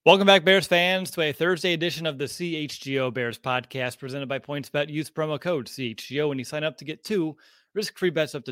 Welcome back, Bears fans, to a Thursday edition of the CHGO Bears podcast presented by PointsBet. Use promo code CHGO when you sign up to get two risk-free bets up to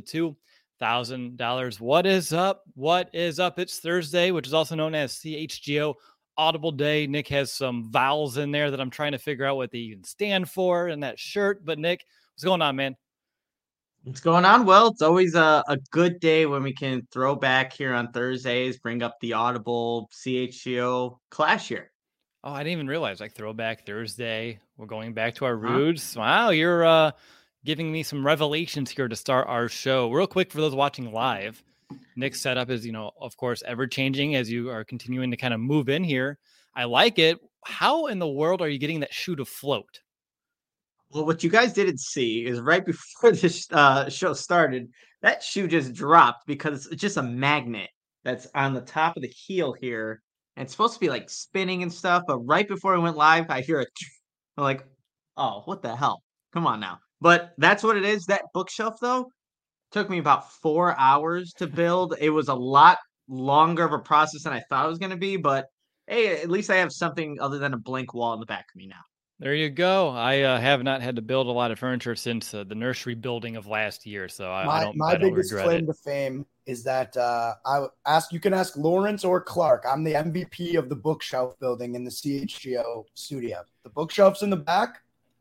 $2,000. What is up? What is up? It's Thursday, which is also known as CHGO Audible Day. Nick has some vowels in there that I'm trying to figure out what they even stand for in that shirt. But Nick, what's going on, man? What's going on? Well, it's always a good day when we can throw back here on Thursdays, bring up the Audible CHGO Clash here. Oh, I didn't even realize, like, Throwback Thursday. We're going back to our Huh? roots. Wow, you're giving me some revelations here to start our show. Real quick for those watching live, Nick's setup is, of course, ever changing as you are continuing to kind of move in here. I like it. How in the world are you getting that shoe to float? Well, what you guys didn't see is right before this show started, that shoe just dropped because it's just a magnet that's on the top of the heel here. And it's supposed to be like spinning and stuff, but right before we went live, I hear I'm like, oh, what the hell? Come on now. But that's what it is. That bookshelf, though, took me about 4 hours to build. It was a lot longer of a process than I thought it was going to be, but hey, at least I have something other than a blank wall in the back of me now. There you go. I have not had to build a lot of furniture since the nursery building of last year, so I don't My biggest regret claim it. to fame is that you can ask Lawrence or Clark. I'm the MVP of the bookshelf building in the CHGO studio. The bookshelves in the back,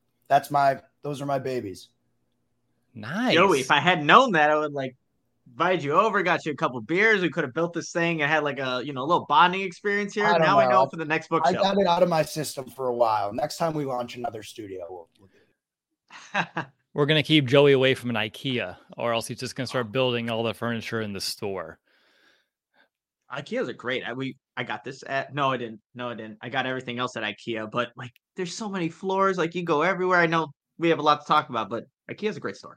those are my babies. Nice. Joey, if I had known that, I would invite you over, got you a couple beers. We could have built this thing and had a little bonding experience here. Now I know for the next bookshelf. I got it out of my system for a while. Next time we launch another studio, we'll do it. We're going to keep Joey away from an IKEA, or else he's just going to start building all the furniture in the store. IKEAs are great. I got this at no, I didn't. I got everything else at IKEA, but there's so many floors. You go everywhere. I know we have a lot to talk about, but IKEA's a great store.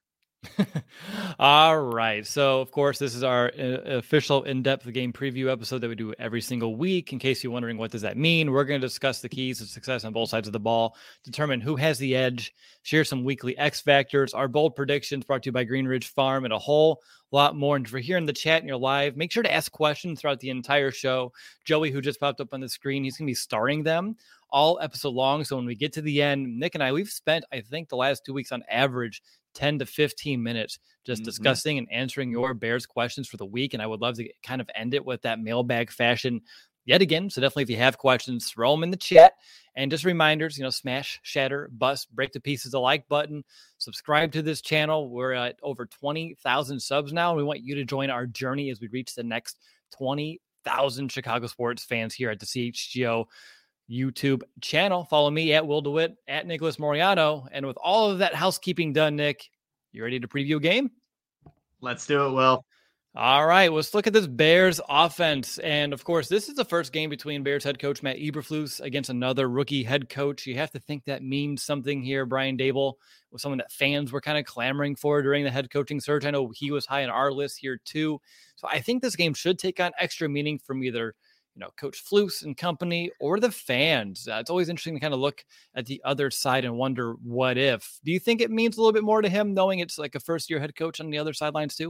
All right. So, of course, this is our official in-depth game preview episode that we do every single week. In case you're wondering what does that mean, we're going to discuss the keys to success on both sides of the ball, determine who has the edge, share some weekly X factors, our bold predictions brought to you by Greenridge Farm, and a whole lot more. And if you're here in the chat and you're live, make sure to ask questions throughout the entire show. Joey, who just popped up on the screen, he's going to be starting them all episode long. So when we get to the end, Nick and I, we've spent, I think, the last 2 weeks on average 10 to 15 minutes just discussing and answering your Bears questions for the week. And I would love to kind of end it with that mailbag fashion yet again. So definitely, if you have questions, throw them in the chat. And just reminders, smash, shatter, bust, break to pieces the like button. Subscribe to this channel. We're at over 20,000 subs now. And we want you to join our journey as we reach the next 20,000 Chicago sports fans here at the CHGO YouTube channel. Follow me at Will DeWitt, at Nicholas Moriano. And with all of that housekeeping done, Nick, you ready to preview a game? Let's do it, Will. All right, let's look at this Bears offense. And of course, this is the first game between Bears head coach Matt Eberflus against another rookie head coach. You have to think that means something here. Brian Daboll was someone that fans were kind of clamoring for during the head coaching search. I know he was high on our list here too. So I think this game should take on extra meaning from either Coach Flus and company or the fans. It's always interesting to kind of look at the other side and wonder what if. Do you think it means a little bit more to him knowing it's like a first-year head coach on the other sidelines too?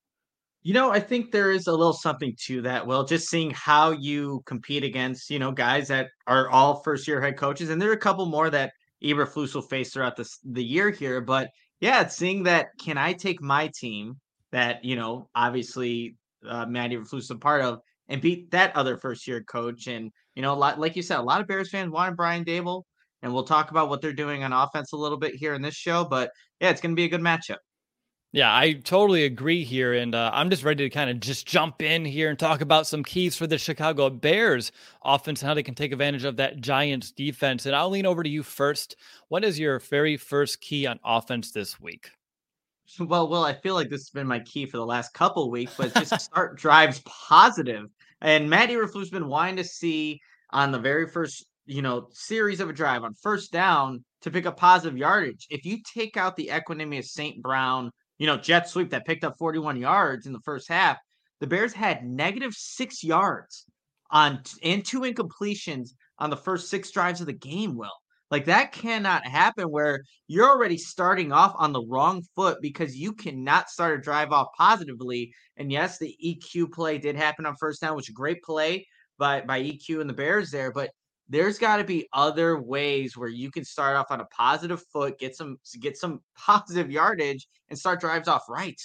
I think there is a little something to that. Well, just seeing how you compete against, guys that are all first-year head coaches, and there are a couple more that Eberflus will face throughout the year here. But yeah, it's seeing that can I take my team that obviously Matt Eberflus is a part of and beat that other first-year coach. And a lot, like you said, a lot of Bears fans wanted Brian Daboll, and we'll talk about what they're doing on offense a little bit here in this show. But yeah, it's going to be a good matchup. Yeah, I totally agree here. And I'm just ready to kind of just jump in here and talk about some keys for the Chicago Bears offense and how they can take advantage of that Giants defense. And I'll lean over to you first. What is your very first key on offense this week? Well, I feel like this has been my key for the last couple of weeks, but just start drives positive. And Matt Eberflus has been wanting to see on the very first, series of a drive on first down to pick up positive yardage. If you take out the equanimity of St. Brown, jet sweep that picked up 41 yards in the first half, the Bears had -6 yards and 2 incompletions on the first 6 drives of the game, Will. That cannot happen where you're already starting off on the wrong foot because you cannot start a drive off positively. And yes, the EQ play did happen on first down, which is a great play. by EQ and the Bears there, but there's got to be other ways where you can start off on a positive foot, get some positive yardage, and start drives off right.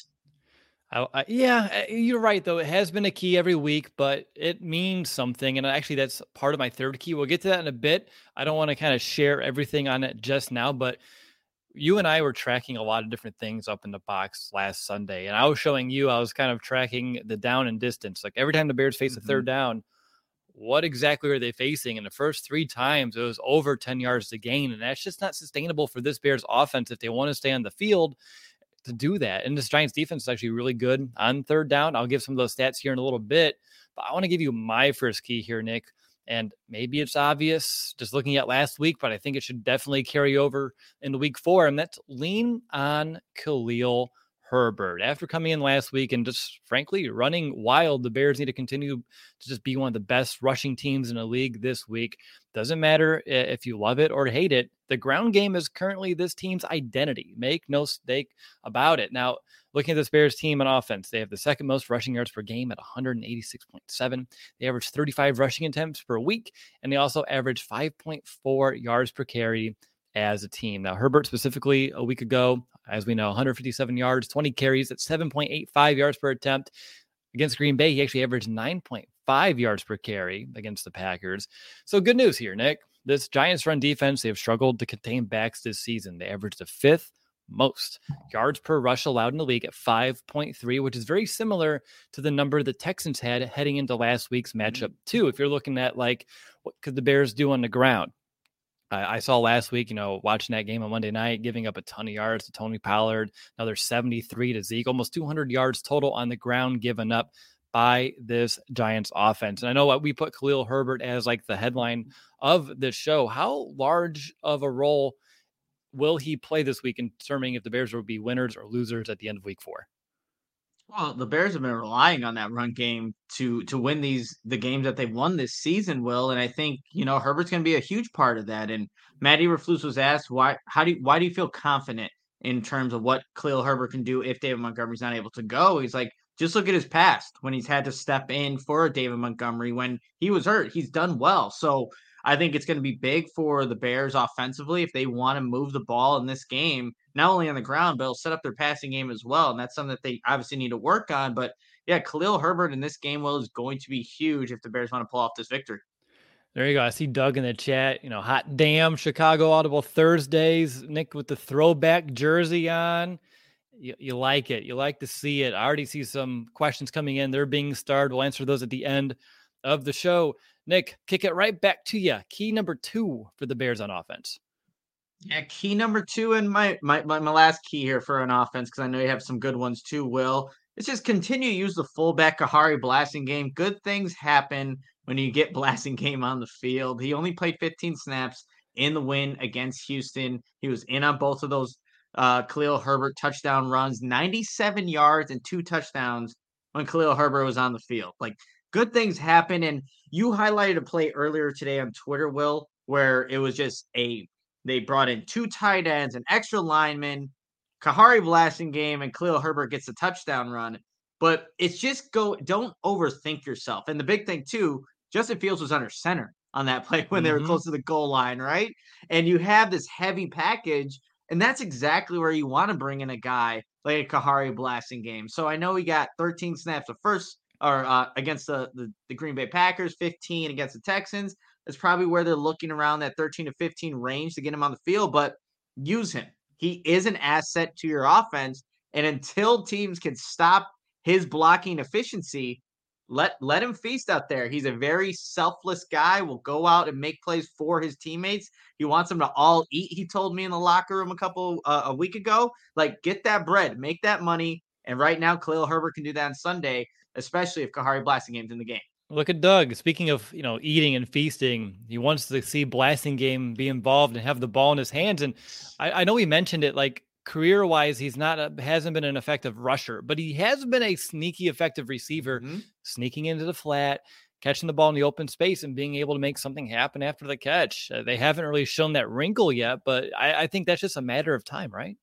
Yeah, you're right, though. It has been a key every week, but it means something. And actually, that's part of my third key. We'll get to that in a bit. I don't want to kind of share everything on it just now, but you and I were tracking a lot of different things up in the box last Sunday. And I was showing you, I was kind of tracking the down and distance. Like every time the Bears face a third down, what exactly are they facing? And the first 3 times, it was over 10 yards to gain. And that's just not sustainable for this Bears offense if they want to stay on the field to do that. And this Giants defense is actually really good on third down. I'll give some of those stats here in a little bit, but I want to give you my first key here, Nick. And maybe it's obvious just looking at last week, but I think it should definitely carry over into week 4. And that's lean on Khalil Herbert. After coming in last week and just frankly running wild, the Bears need to continue to just be one of the best rushing teams in the league this week. Doesn't matter if you love it or hate it. The ground game is currently this team's identity. Make no mistake about it. Now, looking at this Bears team on offense, they have the second most rushing yards per game at 186.7. They average 35 rushing attempts per week, and they also average 5.4 yards per carry as a team. Now, Herbert specifically a week ago, as we know, 157 yards, 20 carries at 7.85 yards per attempt. Against Green Bay, he actually averaged 9.5 yards per carry against the Packers. So good news here, Nick. This Giants run defense, they have struggled to contain backs this season. They averaged the 5th most yards per rush allowed in the league at 5.3, which is very similar to the number the Texans had heading into last week's matchup too. If you're looking at like, what could the Bears do on the ground? I saw last week, watching that game on Monday night, giving up a ton of yards to Tony Pollard, another 73 to Zeke, almost 200 yards total on the ground given up by this Giants offense. And I know what we put Khalil Herbert as like the headline of this show. How large of a role will he play this week in determining if the Bears will be winners or losers at the end of week 4? Well, the Bears have been relying on that run game to win the games that they've won this season, Will. And I think, Herbert's going to be a huge part of that. And Matt Eberflus was asked, why do you feel confident in terms of what Khalil Herbert can do if David Montgomery's not able to go? He's like, just look at his past when he's had to step in for David Montgomery when he was hurt. He's done well. So I think it's going to be big for the Bears offensively if they want to move the ball in this game, not only on the ground, but it'll set up their passing game as well. And that's something that they obviously need to work on. But yeah, Khalil Herbert in this game, Will, is going to be huge if the Bears want to pull off this victory. There you go. I see Doug in the chat. Hot damn Chicago Audible Thursdays. Nick with the throwback jersey on. You like it. You like to see it. I already see some questions coming in. They're being starred. We'll answer those at the end of the show. Nick, kick it right back to you. Key number 2 for the Bears on offense. Yeah, key number 2 and my last key here for an offense, because I know you have some good ones too, Will. It's just continue to use the fullback Kahari Blasingame. Good things happen when you get Blasingame on the field. He only played 15 snaps in the win against Houston. He was in on both of those Khalil Herbert touchdown runs, 97 yards and 2 touchdowns when Khalil Herbert was on the field. Like, good things happen. And you highlighted a play earlier today on Twitter, Will, where it was just they brought in 2 tight ends, an extra lineman, Kahari Blasingame, and Khalil Herbert gets a touchdown run. But it's just don't overthink yourself. And the big thing too, Justin Fields was under center on that play when they were close to the goal line, right? And you have this heavy package, and that's exactly where you want to bring in a guy like a Kahari Blasingame. So I know he got 13 snaps against the Green Bay Packers, 15 against the Texans. That's probably where they're looking around that 13 to 15 range to get him on the field, but use him. He is an asset to your offense, and until teams can stop his blocking efficiency, let him feast out there. He's a very selfless guy, will go out and make plays for his teammates. He wants them to all eat, he told me in the locker room a week ago. Like, get that bread, make that money, and right now Khalil Herbert can do that on Sunday, especially if Kahari Blasingame's in the game. Look at Doug. Speaking of, eating and feasting, he wants to see Blasingame be involved and have the ball in his hands. And I know he mentioned it, like career-wise, hasn't been an effective rusher, but he has been a sneaky effective receiver, sneaking into the flat, catching the ball in the open space and being able to make something happen after the catch. They haven't really shown that wrinkle yet, but I think that's just a matter of time, right?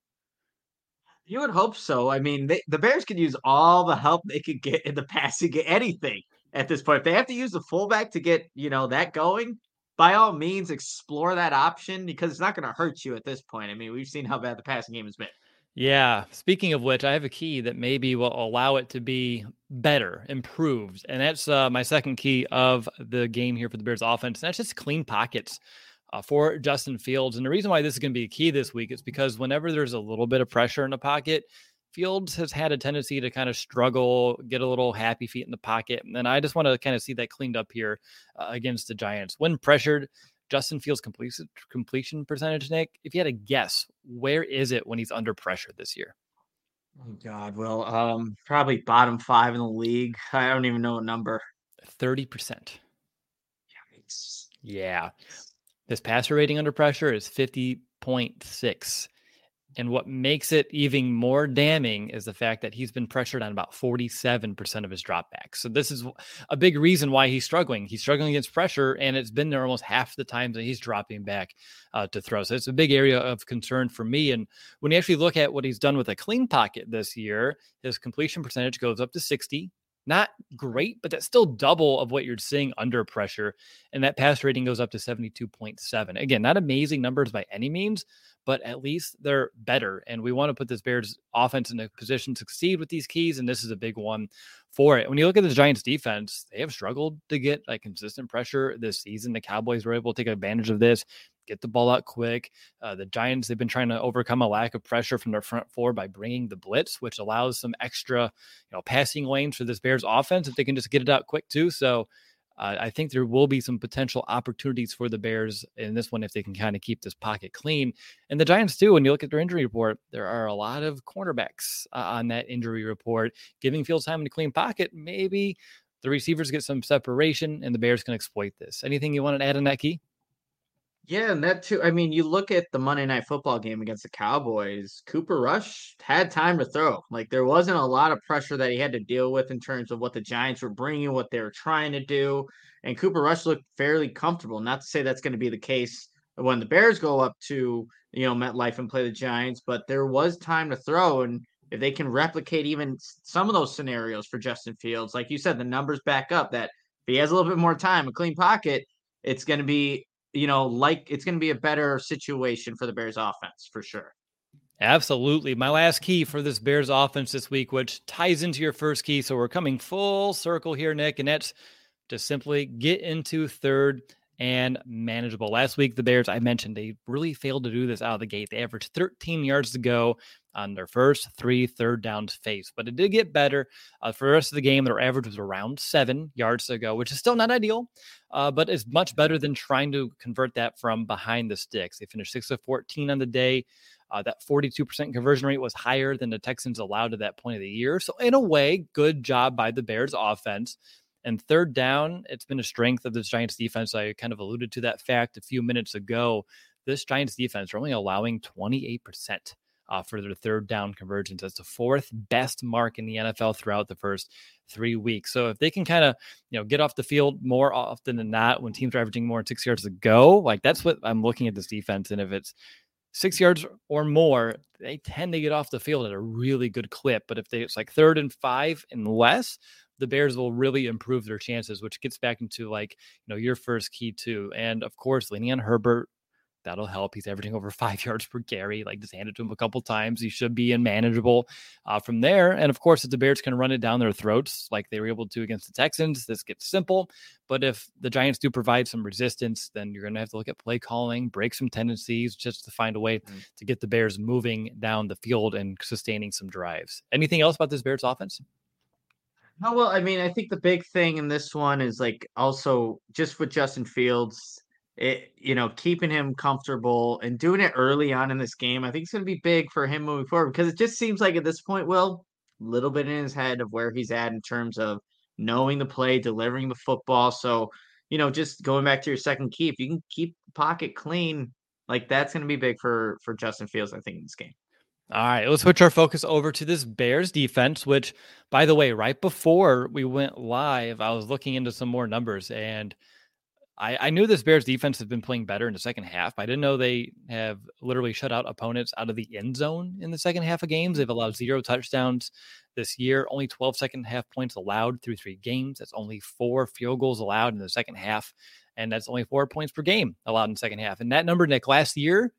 You would hope so. I mean, the Bears could use all the help they could get in the passing game, anything. at this point. If they have to use the fullback to get, that going, by all means, explore that option because it's not going to hurt you at this point. I mean, we've seen how bad the passing game has been. Yeah. Speaking of which, I have a key that maybe will allow it to be better, improved. And that's my second key of the game here for the Bears offense. And that's just clean pockets for Justin Fields. And the reason why this is going to be a key this week is because whenever there's a little bit of pressure in the pocket, Fields has had a tendency to kind of struggle, get a little happy feet in the pocket. And I just want to kind of see that cleaned up here against the Giants. When pressured, Justin Fields' completion percentage, Nick, if you had a guess, where is it when he's under pressure this year? Oh God, well, probably bottom 5 in the league. I don't even know a number. 30%. Yikes. Yeah. His passer rating under pressure is 50.6. And what makes it even more damning is the fact that he's been pressured on about 47% of his dropbacks. So this is a big reason why he's struggling. He's struggling against pressure, and it's been there almost half the times that he's dropping back to throw. So it's a big area of concern for me. And when you actually look at what he's done with a clean pocket this year, his completion percentage goes up to 60. Not great, but that's still double of what you're seeing under pressure. And that pass rating goes up to 72.7. Again, not amazing numbers by any means, but at least they're better. And we want to put this Bears offense in a position to succeed with these keys. And this is a big one for it. When you look at the Giants defense, they have struggled to get like consistent pressure this season. The Cowboys were able to take advantage of this, get the ball out quick. The Giants, they've been trying to overcome a lack of pressure from their front four by bringing the blitz, which allows some extra, passing lanes for this Bears offense if they can just get it out quick too. So I think there will be some potential opportunities for the Bears in this one if they can kind of keep this pocket clean. And the Giants too, when you look at their injury report, there are a lot of cornerbacks on that injury report. Giving Fields time in a clean pocket, maybe the receivers get some separation and the Bears can exploit this. Anything you want to add on that, Key? Yeah, and that too. I mean, you look at the Monday Night Football game against the Cowboys, Cooper Rush had time to throw. Like, there wasn't a lot of pressure that he had to deal with in terms of what the Giants were bringing, what they were trying to do. And Cooper Rush looked fairly comfortable. Not to say that's going to be the case when the Bears go up to, MetLife and play the Giants, but there was time to throw. And if they can replicate even some of those scenarios for Justin Fields, like you said, the numbers back up that if he has a little bit more time, a clean pocket, it's going to be it's going to be a better situation for the Bears offense for sure. Absolutely. My last key for this Bears offense this week, which ties into your first key. So we're coming full circle here, Nick, and that's to simply get into third and manageable. Last week, the Bears, I mentioned, they really failed to do this out of the gate. They averaged 13 yards to go on their first 3 third downs faced, but it did get better. For the rest of the game, their average was around 7 yards to go, which is still not ideal, but is much better than trying to convert that from behind the sticks. They finished 6 of 14 on the day. That 42% conversion rate was higher than the Texans allowed at that point of the year. So in a way, good job by the Bears offense. And third down, it's been a strength of this Giants defense. I kind of alluded to that fact a few minutes ago. This Giants defense are only allowing 28% for their third down conversions. That's the fourth best mark in the NFL throughout the first 3 weeks. So if they can kind of, get off the field more often than not when teams are averaging more than 6 yards to go, like that's what I'm looking at this defense. And if it's 6 yards or more, they tend to get off the field at a really good clip. But if it's like 3rd and 5 and less, the Bears will really improve their chances, which gets back into your first key too. And of course, leaning on Herbert, that'll help. He's averaging over 5 yards per carry. Like, just hand it to him a couple times. He should be manageable from there. And of course, if the Bears can run it down their throats like they were able to against the Texans, this gets simple. But if the Giants do provide some resistance, then you're going to have to look at play calling, break some tendencies just to find a way to get the Bears moving down the field and sustaining some drives. Anything else about this Bears offense? No, well, I mean, I think the big thing in this one is also just with Justin Fields, keeping him comfortable and doing it early on in this game. I think it's going to be big for him moving forward because it just seems like at this point, Will, a little bit in his head of where he's at in terms of knowing the play, delivering the football. So, just going back to your second key, if you can keep the pocket clean, that's going to be big for Justin Fields, I think, in this game. All right, let's switch our focus over to this Bears defense, which, by the way, right before we went live, I was looking into some more numbers, and I knew this Bears defense has been playing better in the second half. I didn't know they have literally shut out opponents out of the end zone in the second half of games. They've allowed 0 touchdowns this year, only 12 second half points allowed through 3 games. That's only 4 field goals allowed in the second half. And that's only 4 points per game allowed in the second half. And that number, Nick, last year,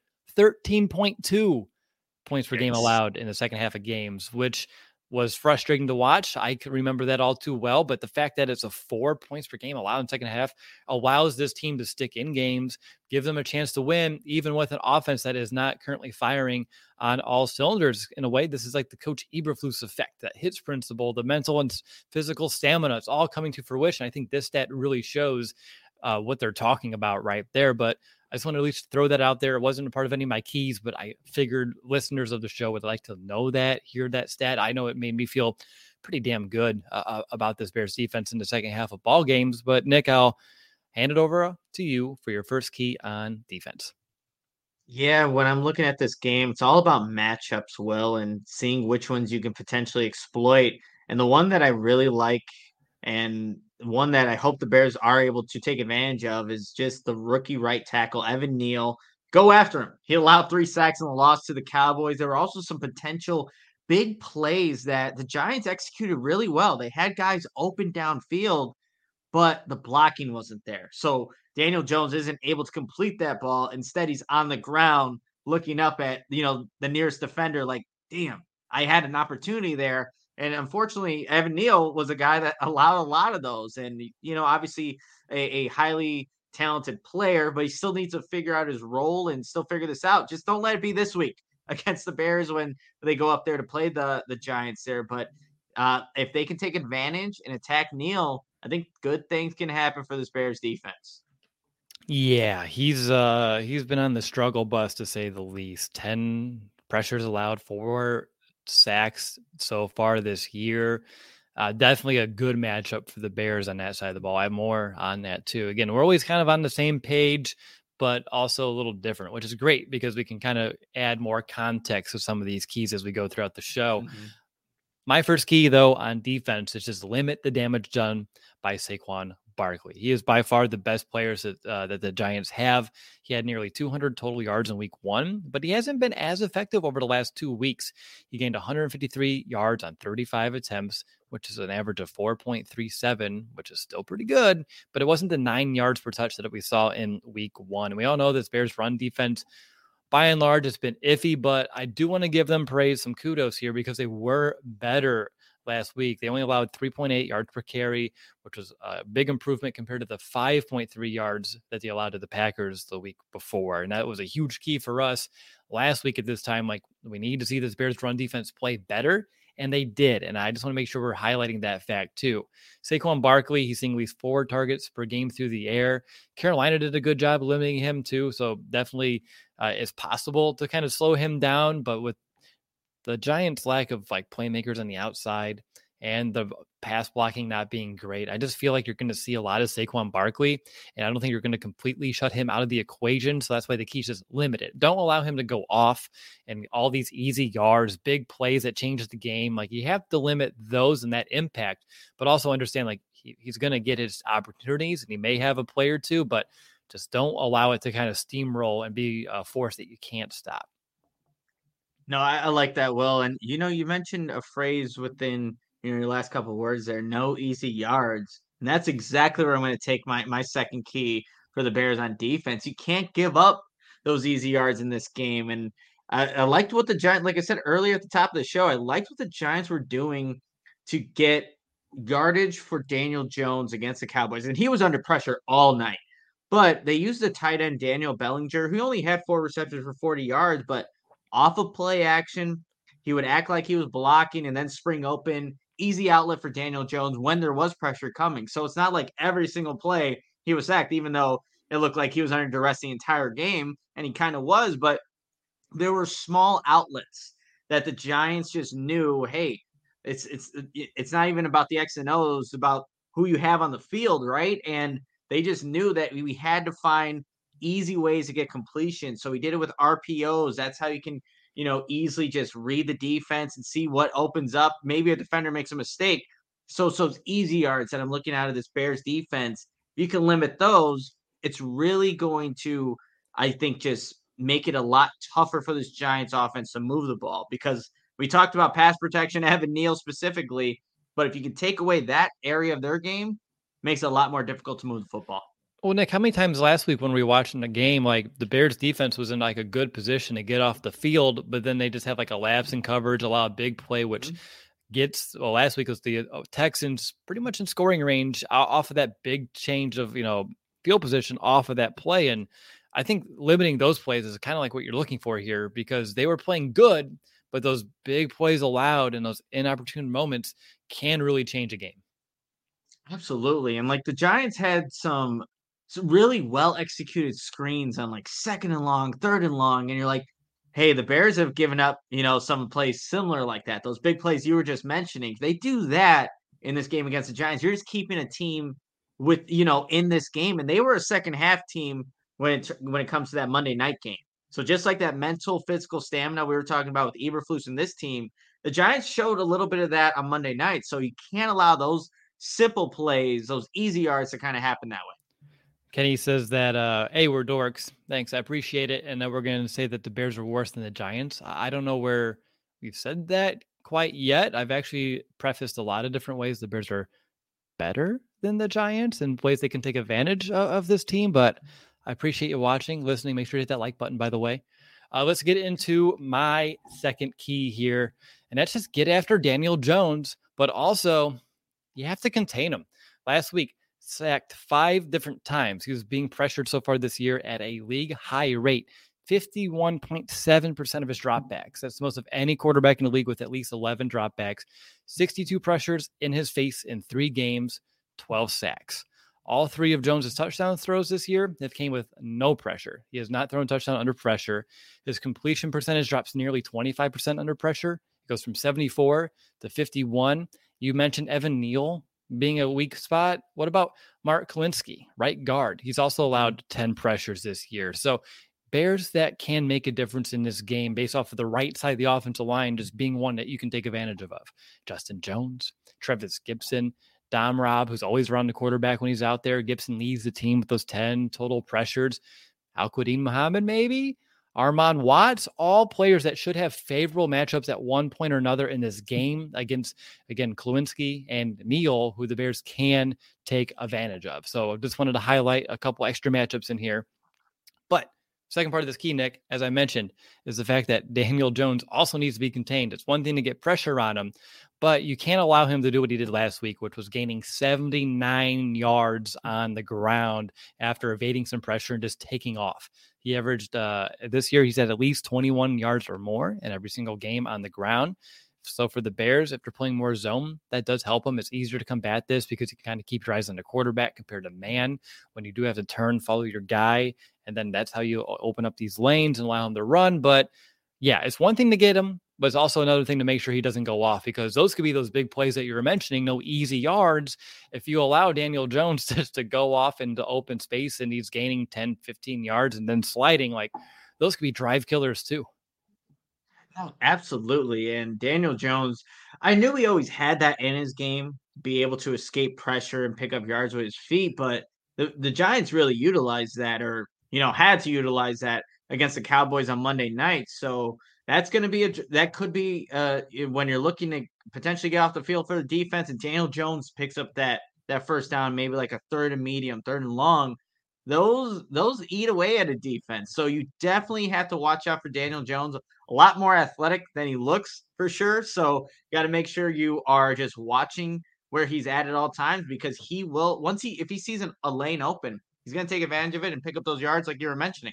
13.2 points per game allowed in the second half of games, which was frustrating to watch. I can remember that all too well, but the fact that it's a 4 points per game allowed in the second half allows this team to stick in games, give them a chance to win, even with an offense that is not currently firing on all cylinders. In a way, this is like the Coach Eberflus effect, that hits principle, the mental and physical stamina. It's all coming to fruition. I think this stat really shows what they're talking about right there. But I just want to at least throw that out there. It wasn't a part of any of my keys, but I figured listeners of the show would like to know that, hear that stat. I know it made me feel pretty damn good about this Bears defense in the second half of ball games. But Nick, I'll hand it over to you for your first key on defense. Yeah, when I'm looking at this game, it's all about matchups, Will, and seeing which ones you can potentially exploit. And the one that I really like, and one that I hope the Bears are able to take advantage of, is just the rookie right tackle, Evan Neal. Go after him. He allowed 3 sacks in the loss to the Cowboys. There were also some potential big plays that the Giants executed really well. They had guys open downfield, but the blocking wasn't there. So Daniel Jones isn't able to complete that ball. Instead, he's on the ground looking up at, the nearest defender like, damn, I had an opportunity there. And unfortunately, Evan Neal was a guy that allowed a lot of those. And, obviously a highly talented player, but he still needs to figure out his role and still figure this out. Just don't let it be this week against the Bears when they go up there to play the Giants there. But if they can take advantage and attack Neal, I think good things can happen for this Bears defense. Yeah, he's been on the struggle bus to say the least. 10 pressures allowed, 4 sacks so far this year. Definitely a good matchup for the Bears on that side of the ball. I have more on that too. Again, we're always kind of on the same page, but also a little different, which is great because we can kind of add more context to some of these keys as we go throughout the show. Mm-hmm. My first key, though, on defense is just limit the damage done by Saquon Barkley. He is by far the best players that the Giants have. He had nearly 200 total yards in week 1, but he hasn't been as effective over the last 2 weeks. He gained 153 yards on 35 attempts, which is an average of 4.37, which is still pretty good, but it wasn't the 9 yards per touch that we saw in week 1. And we all know this Bears run defense, by and large, it's been iffy, but I do want to give them praise, some kudos here, because they were better last week. They only allowed 3.8 yards per carry, which was a big improvement compared to the 5.3 yards that they allowed to the Packers the week before. And that was a huge key for us last week at this time. Like, we need to see this Bears run defense play better. And they did. And I just want to make sure we're highlighting that fact too. Saquon Barkley, he's seeing at least 4 targets per game through the air. Carolina did a good job limiting him too. So definitely it's possible to kind of slow him down. But with the Giants' lack of like playmakers on the outside and the pass blocking not being great, I just feel like you're going to see a lot of Saquon Barkley, and I don't think you're going to completely shut him out of the equation. So that's why the key is just limited. Don't allow him to go off and all these easy yards, big plays that changes the game. Like, you have to limit those and that impact, but also understand like he's going to get his opportunities and he may have a play or two, but just don't allow it to kind of steamroll and be a force that you can't stop. No, I like that, Will. And, you mentioned a phrase within your last couple of words there, no easy yards. And that's exactly where I'm going to take my second key for the Bears on defense. You can't give up those easy yards in this game. And I liked what the Giants, like I said earlier at the top of the show, I liked what the Giants were doing to get yardage for Daniel Jones against the Cowboys. And he was under pressure all night. But they used the tight end Daniel Bellinger, who only had 4 receptions for 40 yards, but off of play action, he would act like he was blocking and then spring open. Easy outlet for Daniel Jones when there was pressure coming. So it's not like every single play he was sacked, even though it looked like he was under duress the entire game, and he kind of was. But there were small outlets that the Giants just knew, hey, it's not even about the X and O's, about who you have on the field, right? And they just knew that we had to find easy ways to get completion. So we did it with RPOs. That's how you can, easily just read the defense and see what opens up. Maybe a defender makes a mistake. So it's easy yards that I'm looking out of this Bears defense. You can limit those. it's really going to, I think, just make it a lot tougher for this Giants offense to move the ball, because we talked about pass protection, Evan Neal specifically, but if you can take away that area of their game, makes it a lot more difficult to move the football. Well, Nick, how many times last week when we were watching the game, like the Bears defense was in like a good position to get off the field, but then they just have like a lapse in coverage, allow a big play, which gets, well, last week was the Texans pretty much in scoring range off of that big change of, field position off of that play. And I think limiting those plays is kind of like what you're looking for here, because they were playing good, but those big plays allowed in those inopportune moments can really change a game. Absolutely. And like the Giants had some really well executed screens on like second and long, third and long. And you're like, hey, the Bears have given up, some plays similar like that. Those big plays you were just mentioning. If they do that in this game against the Giants, you're just keeping a team with, in this game. And they were a second half team when it comes to that Monday night game. So just like that mental, physical stamina we were talking about with Eberflus and this team, the Giants showed a little bit of that on Monday night. So you can't allow those simple plays, those easy yards to kind of happen that way. Kenny says that, hey, we're dorks. Thanks. I appreciate it. And then we're going to say that the Bears are worse than the Giants. I don't know where we've said that quite yet. I've actually prefaced a lot of different ways the Bears are better than the Giants and ways they can take advantage of this team. But I appreciate you watching, listening. Make sure to hit that like button, by the way. Let's get into my second key here. And that's just get after Daniel Jones, but also you have to contain him. Last week, sacked 5 different times. He was being pressured so far this year at a league high rate, 51.7% of his dropbacks. That's the most of any quarterback in the league with at least 11 dropbacks, 62 pressures in his face in 3 games, 12 sacks. All 3 of Jones's touchdown throws this year have came with no pressure. He has not thrown a touchdown under pressure. His completion percentage drops nearly 25% under pressure. It goes from 74 to 51. You mentioned Evan Neal being a weak spot. What about Mark Kalinsky, right guard? He's also allowed 10 pressures this year. So Bears that can make a difference in this game based off of the right side of the offensive line just being one that you can take advantage of. Justin Jones, Trevis Gibson, Dom Robb, who's always around the quarterback when he's out there. Gibson leads the team with those 10 total pressures. Al-Quadin Muhammad, maybe? Armand Watts, all players that should have favorable matchups at one point or another in this game against, again, Kalinsky and Neal, who the Bears can take advantage of. So I just wanted to highlight a couple extra matchups in here. But second part of this key, Nick, as I mentioned, is the fact that Daniel Jones also needs to be contained. It's one thing to get pressure on him, but you can't allow him to do what he did last week, which was gaining 79 yards on the ground after evading some pressure and just taking off. He averaged this year, he's at least 21 yards or more in every single game on the ground. So for the Bears, if they're playing more zone, that does help them. It's easier to combat this because you can kind of keep your eyes on the quarterback compared to man. When you do have to turn, follow your guy, and then that's how you open up these lanes and allow him to run. But yeah, it's one thing to get him, but it's also another thing to make sure he doesn't go off, because those could be those big plays that you were mentioning, no easy yards. If you allow Daniel Jones just to go off into open space and he's gaining 10, 15 yards and then sliding, like those could be drive killers too. Oh, absolutely. And Daniel Jones, I knew he always had that in his game, be able to escape pressure and pick up yards with his feet, but the Giants really utilized that, or had to utilize that against the Cowboys on Monday night. So that's going to be that could be when you're looking to potentially get off the field for the defense, and Daniel Jones picks up that first down, maybe like a third and medium, third and long. Those eat away at a defense. So you definitely have to watch out for Daniel Jones. A lot more athletic than he looks, for sure. So you got to make sure you are just watching where he's at all times, because he will, if he sees a lane open, he's going to take advantage of it and pick up those yards like you were mentioning.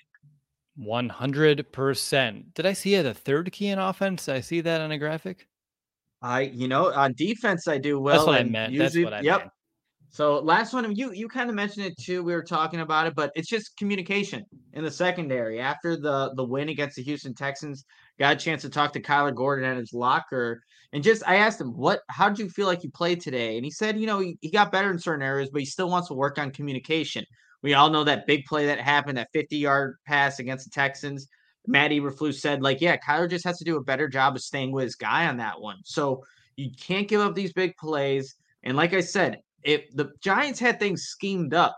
100%. Did I see the third key in offense? Did I see that on a graphic? On defense, I do. Well, that's what I meant. Usually, that's what I meant. So last one, you kind of mentioned it too. We were talking about it, but it's just communication in the secondary. After the win against the Houston Texans, got a chance to talk to Kyler Gordon at his locker, and I asked him, how did you feel like you played today? And he said, he got better in certain areas, but he still wants to work on communication. We all know that big play that happened, that 50-yard pass against the Texans. Matt Eberflus said, Kyler just has to do a better job of staying with his guy on that one. So you can't give up these big plays. And like I said, if the Giants had things schemed up,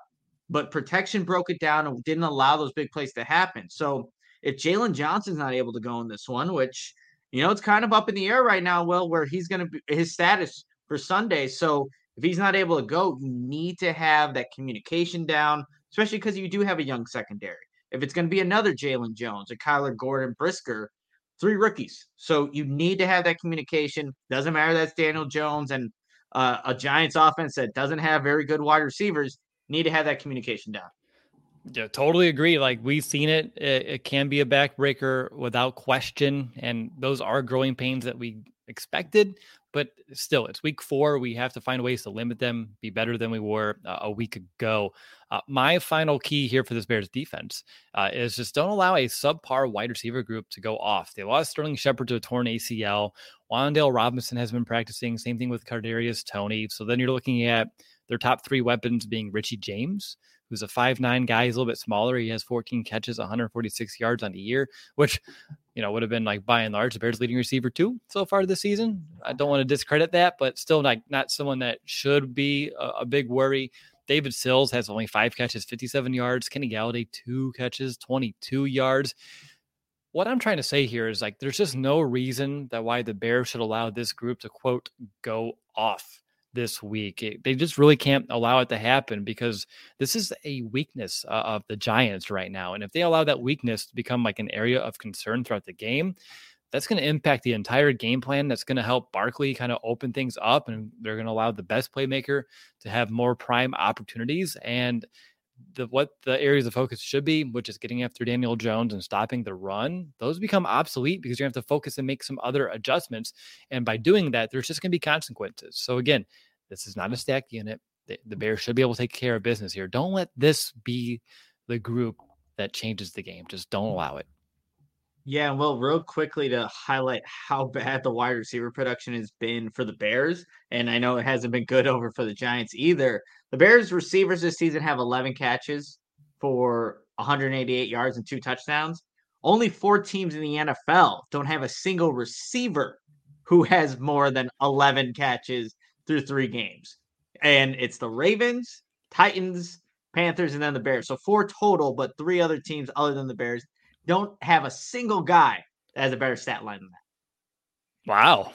but protection broke it down and didn't allow those big plays to happen. So if Jalen Johnson's not able to go in this one, which, it's kind of up in the air right now, Will, where he's going to be his status for Sunday. So if he's not able to go, you need to have that communication down, especially because you do have a young secondary. If it's going to be another Jalen Jones, a Kyler Gordon, Brisker, 3 rookies. So you need to have that communication. Doesn't matter that's Daniel Jones and a Giants offense that doesn't have very good wide receivers. Need to have that communication down. Yeah, totally agree. Like we've seen it. It can be a backbreaker without question. And those are growing pains that we expected, but still it's week 4. We have to find ways to limit them, be better than we were a week ago. My final key here for this Bears defense is just don't allow a subpar wide receiver group to go off. They lost Sterling Shepard to a torn ACL. Wan'Dale Robinson has been practicing. Same thing with Kadarius Toney. So then you're looking at their top 3 weapons being Richie James, who's a 5'9" guy. He's a little bit smaller. He has 14 catches, 146 yards on the year, which, would have been like by and large the Bears leading receiver too so far this season. I don't want to discredit that, but still not someone that should be a big worry. David Sills has only 5 catches, 57 yards. Kenny Galladay, 2 catches, 22 yards. What I'm trying to say here is like, there's just no reason that why the Bears should allow this group to quote, go off this week. They just really can't allow it to happen because this is a weakness of the Giants right now. And if they allow that weakness to become like an area of concern throughout the game, that's going to impact the entire game plan. That's going to help Barkley kind of open things up, and they're going to allow the best playmaker to have more prime opportunities. And what the areas of focus should be, which is getting after Daniel Jones and stopping the run, those become obsolete because you have to focus and make some other adjustments. And by doing that, there's just going to be consequences. So again, this is not a stacked unit. The Bears should be able to take care of business here. Don't let this be the group that changes the game. Just don't allow it. Yeah, well, real quickly to highlight how bad the wide receiver production has been for the Bears, and I know it hasn't been good over for the Giants either. The Bears receivers this season have 11 catches for 188 yards and 2 touchdowns. Only 4 teams in the NFL don't have a single receiver who has more than 11 catches through 3 games. And it's the Ravens, Titans, Panthers, and then the Bears. So 4 total, but 3 other teams other than the Bears don't have a single guy that has a better stat line than that. Wow.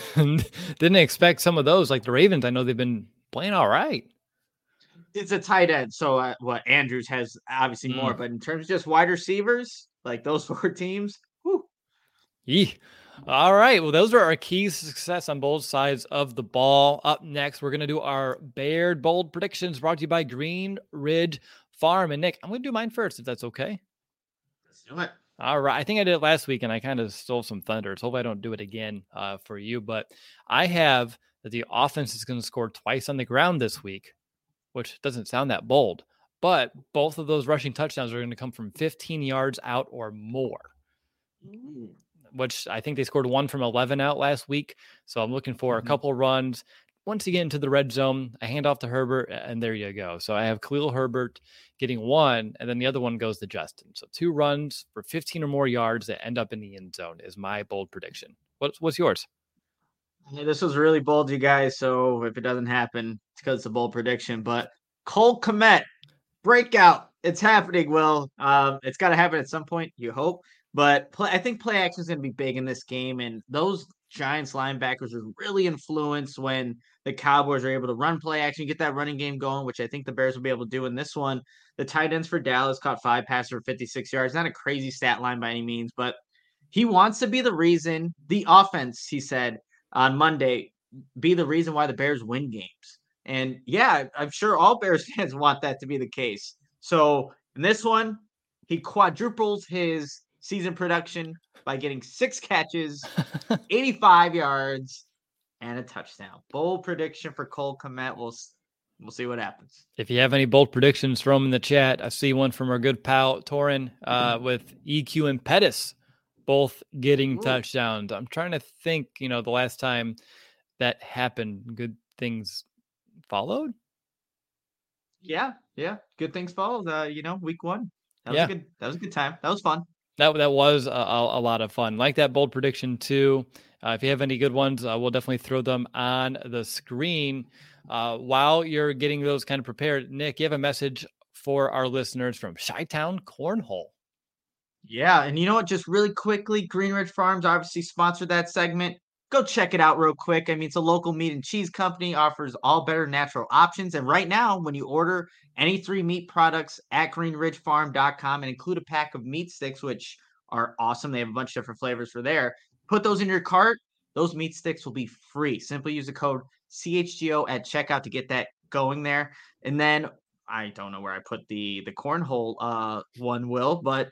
Didn't expect some of those. Like the Ravens, I know they've been playing all right. It's a tight end. So Andrews has obviously more, but in terms of just wide receivers, like those 4 teams, whew. Yeah. All right. Well, those are our keys to success on both sides of the ball. Up next, we're going to do our Bear bold predictions brought to you by Green Ridge Farm. And Nick, I'm going to do mine first, if that's okay. Let's do it. All right. I think I did it last week and I kind of stole some thunder. So hopefully I don't do it again for you. But I have that the offense is going to score twice on the ground this week, which doesn't sound that bold. But both of those rushing touchdowns are going to come from 15 yards out or more. Which I think they scored 1 from 11 out last week. So I'm looking for a couple runs. Once you get into the red zone, I hand off to Herbert, and there you go. So I have Khalil Herbert getting 1, and then the other one goes to Justin. So 2 runs for 15 or more yards that end up in the end zone is my bold prediction. What's yours? Yeah, this was really bold, you guys. So if it doesn't happen, it's because it's a bold prediction. But Cole Kmet, breakout. It's happening, Will. It's got to happen at some point, you hope. But I think play action is going to be big in this game. And those Giants linebackers are really influenced when the Cowboys are able to run play action, get that running game going, which I think the Bears will be able to do in this one. The tight ends for Dallas caught 5 passes for 56 yards. Not a crazy stat line by any means, but he wants to be the reason, the offense, he said on Monday, be the reason why the Bears win games. And yeah, I'm sure all Bears fans want that to be the case. So in this one, he quadruples his season production by getting 6 catches, 85 yards, and a touchdown. Bold prediction for Cole Kmet. We'll see what happens. If you have any bold predictions, throw them in the chat. I see one from our good pal Torin with EQ and Pettis both getting touchdowns. I'm trying to think, the last time that happened, good things followed. Yeah. Good things followed. Week 1. That was a good time. That was fun. That was a lot of fun. Like that bold prediction too. If you have any good ones, we'll definitely throw them on the screen. While you're getting those kind of prepared, Nick, you have a message for our listeners from Chi-Town Cornhole. Yeah, and you know what? Just really quickly, Green Ridge Farms obviously sponsored that segment. Go check it out real quick. I mean, it's a local meat and cheese company, offers all better natural options. And right now, when you order any 3 meat products at greenridgefarm.com and include a pack of meat sticks, which are awesome, they have a bunch of different flavors for there, put those in your cart. Those meat sticks will be free. Simply use the code CHGO at checkout to get that going there. And then I don't know where I put the cornhole one, Will, but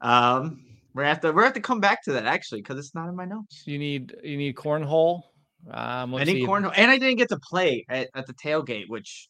we're gonna have to come back to that actually because it's not in my notes. You need cornhole. I need cornhole, and I didn't get to play at the tailgate, which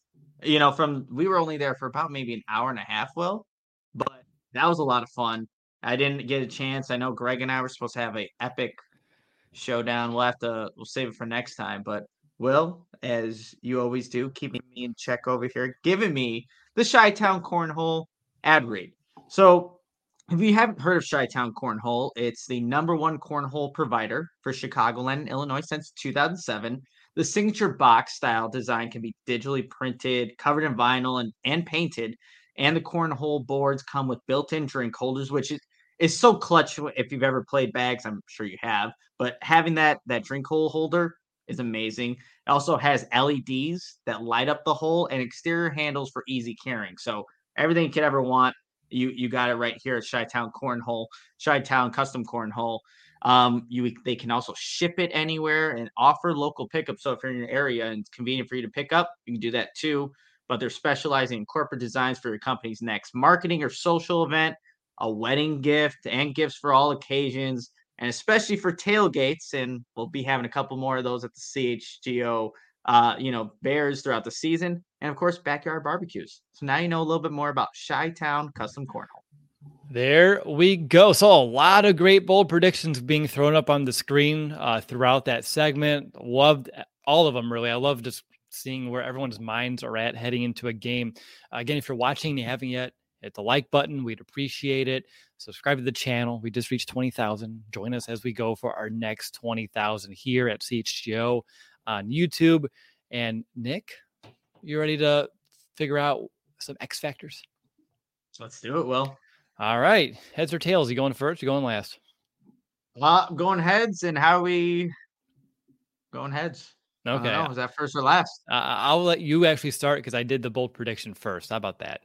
we were only there for about maybe an hour and a half, Will, but that was a lot of fun. I didn't get a chance. I know Greg and I were supposed to have a epic showdown. We'll save it for next time. But Will, as you always do, keeping me in check over here, giving me the Chi-Town Cornhole ad read. So if you haven't heard of Chi-Town Cornhole, it's the #1 cornhole provider for Chicagoland and Illinois since 2007. The signature box style design can be digitally printed, covered in vinyl, and painted. And the cornhole boards come with built-in drink holders, which is so clutch. If you've ever played bags, I'm sure you have. But having that drink hole holder is amazing. It also has LEDs that light up the hole and exterior handles for easy carrying. So everything you could ever want, you got it right here at Chi-Town Cornhole, Chi-Town Custom Cornhole. They can also ship it anywhere and offer local pickup. So if you're in your area and it's convenient for you to pick up, you can do that too. But they're specializing in corporate designs for your company's next marketing or social event, a wedding gift, and gifts for all occasions, and especially for tailgates. And we'll be having a couple more of those at the CHGO Bears throughout the season, and of course backyard barbecues. So now you know a little bit more about Chi-Town Custom Cornhole. There we go. So a lot of great bold predictions being thrown up on the screen throughout that segment. Loved all of them, really. I love just seeing where everyone's minds are at heading into a game. Again, if you're watching and you haven't yet, hit the like button. We'd appreciate it. Subscribe to the channel. We just reached 20,000. Join us as we go for our next 20,000 here at CHGO on YouTube. And Nick, you ready to figure out some X factors? Let's do it, Will. All right. Heads or tails? You going first? You going last? Going heads. And how are we going heads? Okay. Is that first or last? I'll let you actually start because I did the bold prediction first. How about that?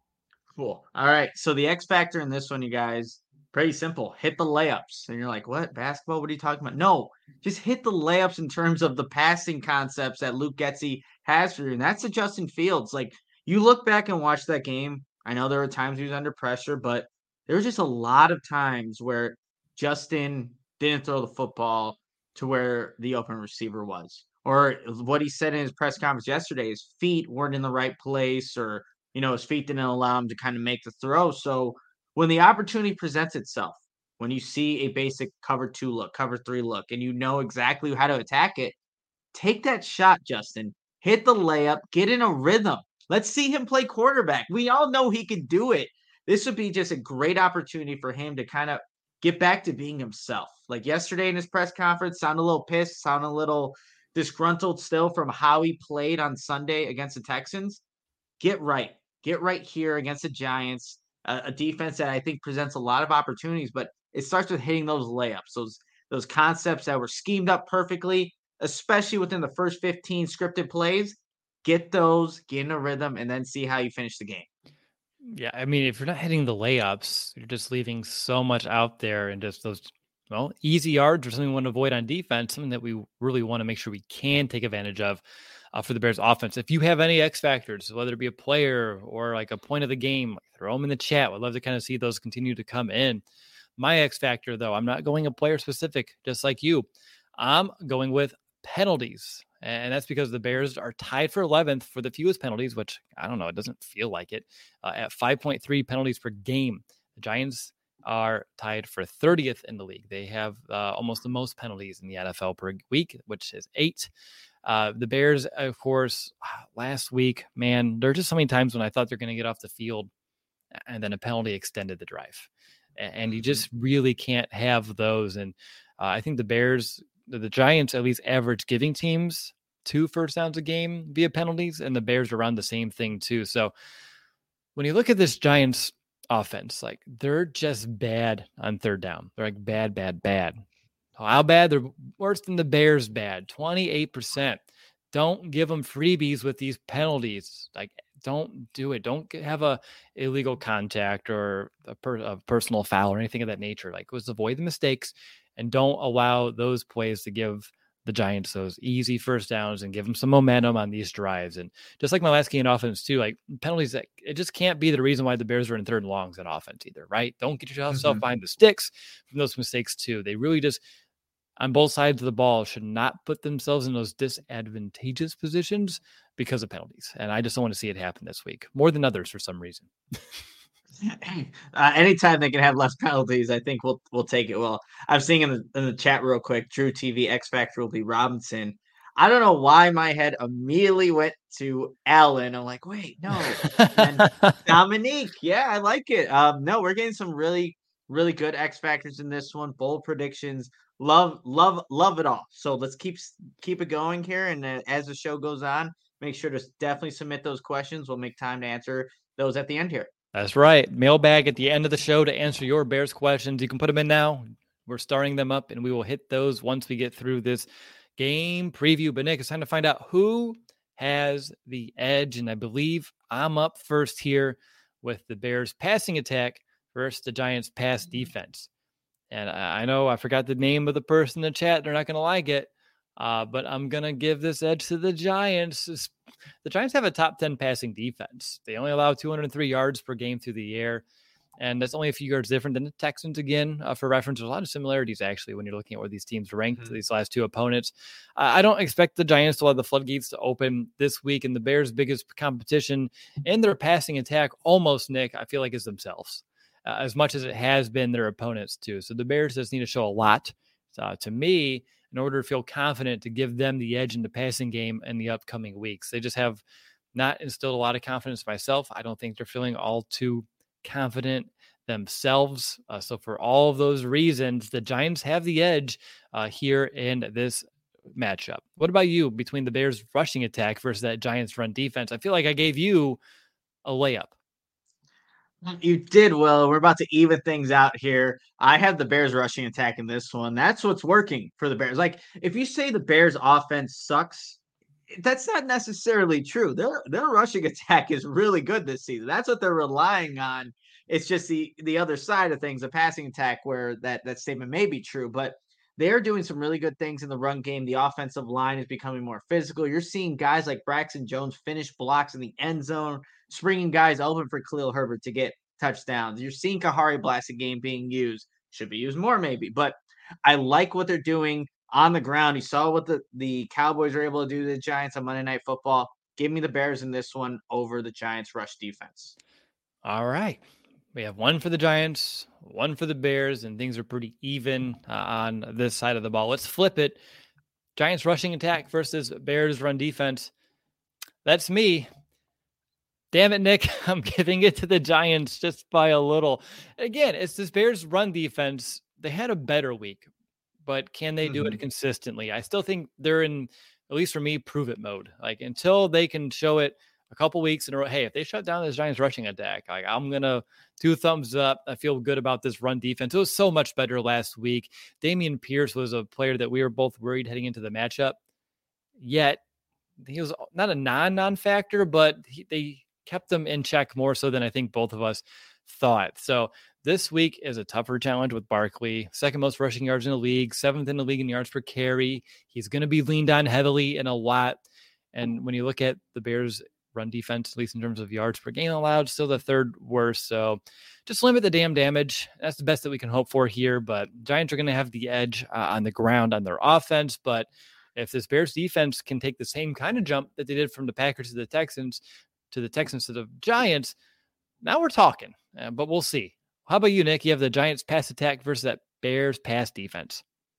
Cool. All right. So the X factor in this one, you guys, pretty simple. Hit the layups. And you're like, what? Basketball? What are you talking about? No, just hit the layups in terms of the passing concepts that Luke Getsy has for you. And that's to Justin Fields. Like, you look back and watch that game. I know there were times he was under pressure, but there was just a lot of times where Justin didn't throw the football to where the open receiver was. Or what he said in his press conference yesterday, his feet weren't in the right place, or his feet didn't allow him to kind of make the throw. So when the opportunity presents itself, when you see a basic cover 2 look, cover 3 look, and you know exactly how to attack it, take that shot, Justin. Hit the layup, get in a rhythm. Let's see him play quarterback. We all know he can do it. This would be just a great opportunity for him to kind of get back to being himself. Like yesterday in his press conference, sounded a little pissed, sounded a little disgruntled still from how he played on Sunday against the Texans. Get right here against the Giants, a defense that I think presents a lot of opportunities, but it starts with hitting those layups, those concepts that were schemed up perfectly, especially within the first 15 scripted plays. Get those, get in a rhythm, and then see how you finish the game. Yeah, I mean, if you're not hitting the layups, you're just leaving so much out there, and just those easy yards or something we want to avoid on defense, something that we really want to make sure we can take advantage of for the Bears offense. If you have any X factors, whether it be a player or like a point of the game, throw them in the chat. I'd love to kind of see those continue to come in. My X factor, though, I'm not going a player specific, just like you. I'm going with penalties. And that's because the Bears are tied for 11th for the fewest penalties, which I don't know, it doesn't feel like it, at 5.3 penalties per game. The Giants are tied for 30th in the league. They have almost the most penalties in the NFL per week, which is 8. The Bears, of course, last week, man, there are just so many times when I thought they're going to get off the field and then a penalty extended the drive. And you just really can't have those. And I think the Giants at least average giving teams 2 first downs a game via penalties, and the Bears are around the same thing too. So when you look at this Giants offense, like they're just bad on third down. They're like bad, bad, bad. How bad? They're worse than the Bears bad, 28%. Don't give them freebies with these penalties. Like, don't do it. Don't have a illegal contact or a personal foul or anything of that nature. Like, just avoid the mistakes and don't allow those plays to give the Giants those easy first downs and give them some momentum on these drives. And just like my last game in offense too, like penalties, that it just can't be the reason why the Bears are in third and longs on offense either, right? Don't get yourself behind the sticks from those mistakes too. They really just, on both sides of the ball, should not put themselves in those disadvantageous positions because of penalties. And I just don't want to see it happen this week more than others for some reason. Anytime they can have less penalties, I think we'll take it. Well, I'm seeing in the chat real quick, Drew TV X Factor will be Robinson. I don't know why my head immediately went to Allen. I'm like, wait, no. And Dominique, yeah, I like it. No, we're getting some really, really good X Factors in this one. Bold predictions. Love it all. So let's keep it going here. And as the show goes on, make sure to definitely submit those questions. We'll make time to answer those at the end here. That's right. Mailbag at the end of the show to answer your Bears questions. You can put them in now. We're starting them up, and we will hit those once we get through this game preview. But Nick, it's time to find out who has the edge, and I believe I'm up first here with the Bears passing attack versus the Giants pass defense. And I know I forgot the name of the person in the chat. They're not going to like it, but I'm going to give this edge to the Giants. The Giants have a top 10 passing defense. They only allow 203 yards per game through the air, and that's only a few yards different than the Texans. Again, for reference, there's a lot of similarities, actually, when you're looking at where these teams ranked these last two opponents. I don't expect the Giants to have the floodgates to open this week, and the Bears' biggest competition in their passing attack, almost, Nick, I feel like is themselves. As much as it has been their opponents too. So the Bears just need to show a lot to me in order to feel confident to give them the edge in the passing game in the upcoming weeks. They just have not instilled a lot of confidence myself. I don't think they're feeling all too confident themselves. So for all of those reasons, the Giants have the edge here in this matchup. What about you between the Bears rushing attack versus that Giants run defense? I feel like I gave you a layup. You did well. We're about to even things out here. I have the Bears rushing attack in this one. That's what's working for the Bears. Like, if you say the Bears offense sucks, that's not necessarily true. Their rushing attack is really good this season. That's what they're relying on. It's just the other side of things, the passing attack, where that statement may be true, but they're doing some really good things in the run game. The offensive line is becoming more physical. You're seeing guys like Braxton Jones finish blocks in the end zone, springing guys open for Khalil Herbert to get touchdowns. You're seeing Kahari Blasingame being used. Should be used more maybe, but I like what they're doing on the ground. You saw what the Cowboys were able to do to the Giants on Monday Night Football. Give me the Bears in this one over the Giants rush defense. All right. We have one for the Giants, one for the Bears, and things are pretty even on this side of the ball. Let's flip it. Giants rushing attack versus Bears run defense. That's me. Damn it, Nick. I'm giving it to the Giants just by a little. Again, it's this Bears run defense. They had a better week, but can they do it consistently? I still think they're in, at least for me, prove it mode. Like, until they can show it a couple weeks in a row, hey, if they shut down this Giants rushing attack, like, I'm going to do thumbs up. I feel good about this run defense. It was so much better last week. Dameon Pierce was a player that we were both worried heading into the matchup. Yet, he was not a non-factor, but they kept them in check more so than I think both of us thought. So this week is a tougher challenge with Barkley, second most rushing yards in the league, seventh in the league in yards per carry. He's going to be leaned on heavily in a lot. And when you look at the Bears run defense, at least in terms of yards per game allowed, still the third worst. So just limit the damn damage. That's the best that we can hope for here. But Giants are going to have the edge on the ground on their offense. But if this Bears defense can take the same kind of jump that they did from the Packers to the Texans to the Giants, now we're talking. But we'll see. How about you, Nick? You have the Giants pass attack versus that Bears pass defense.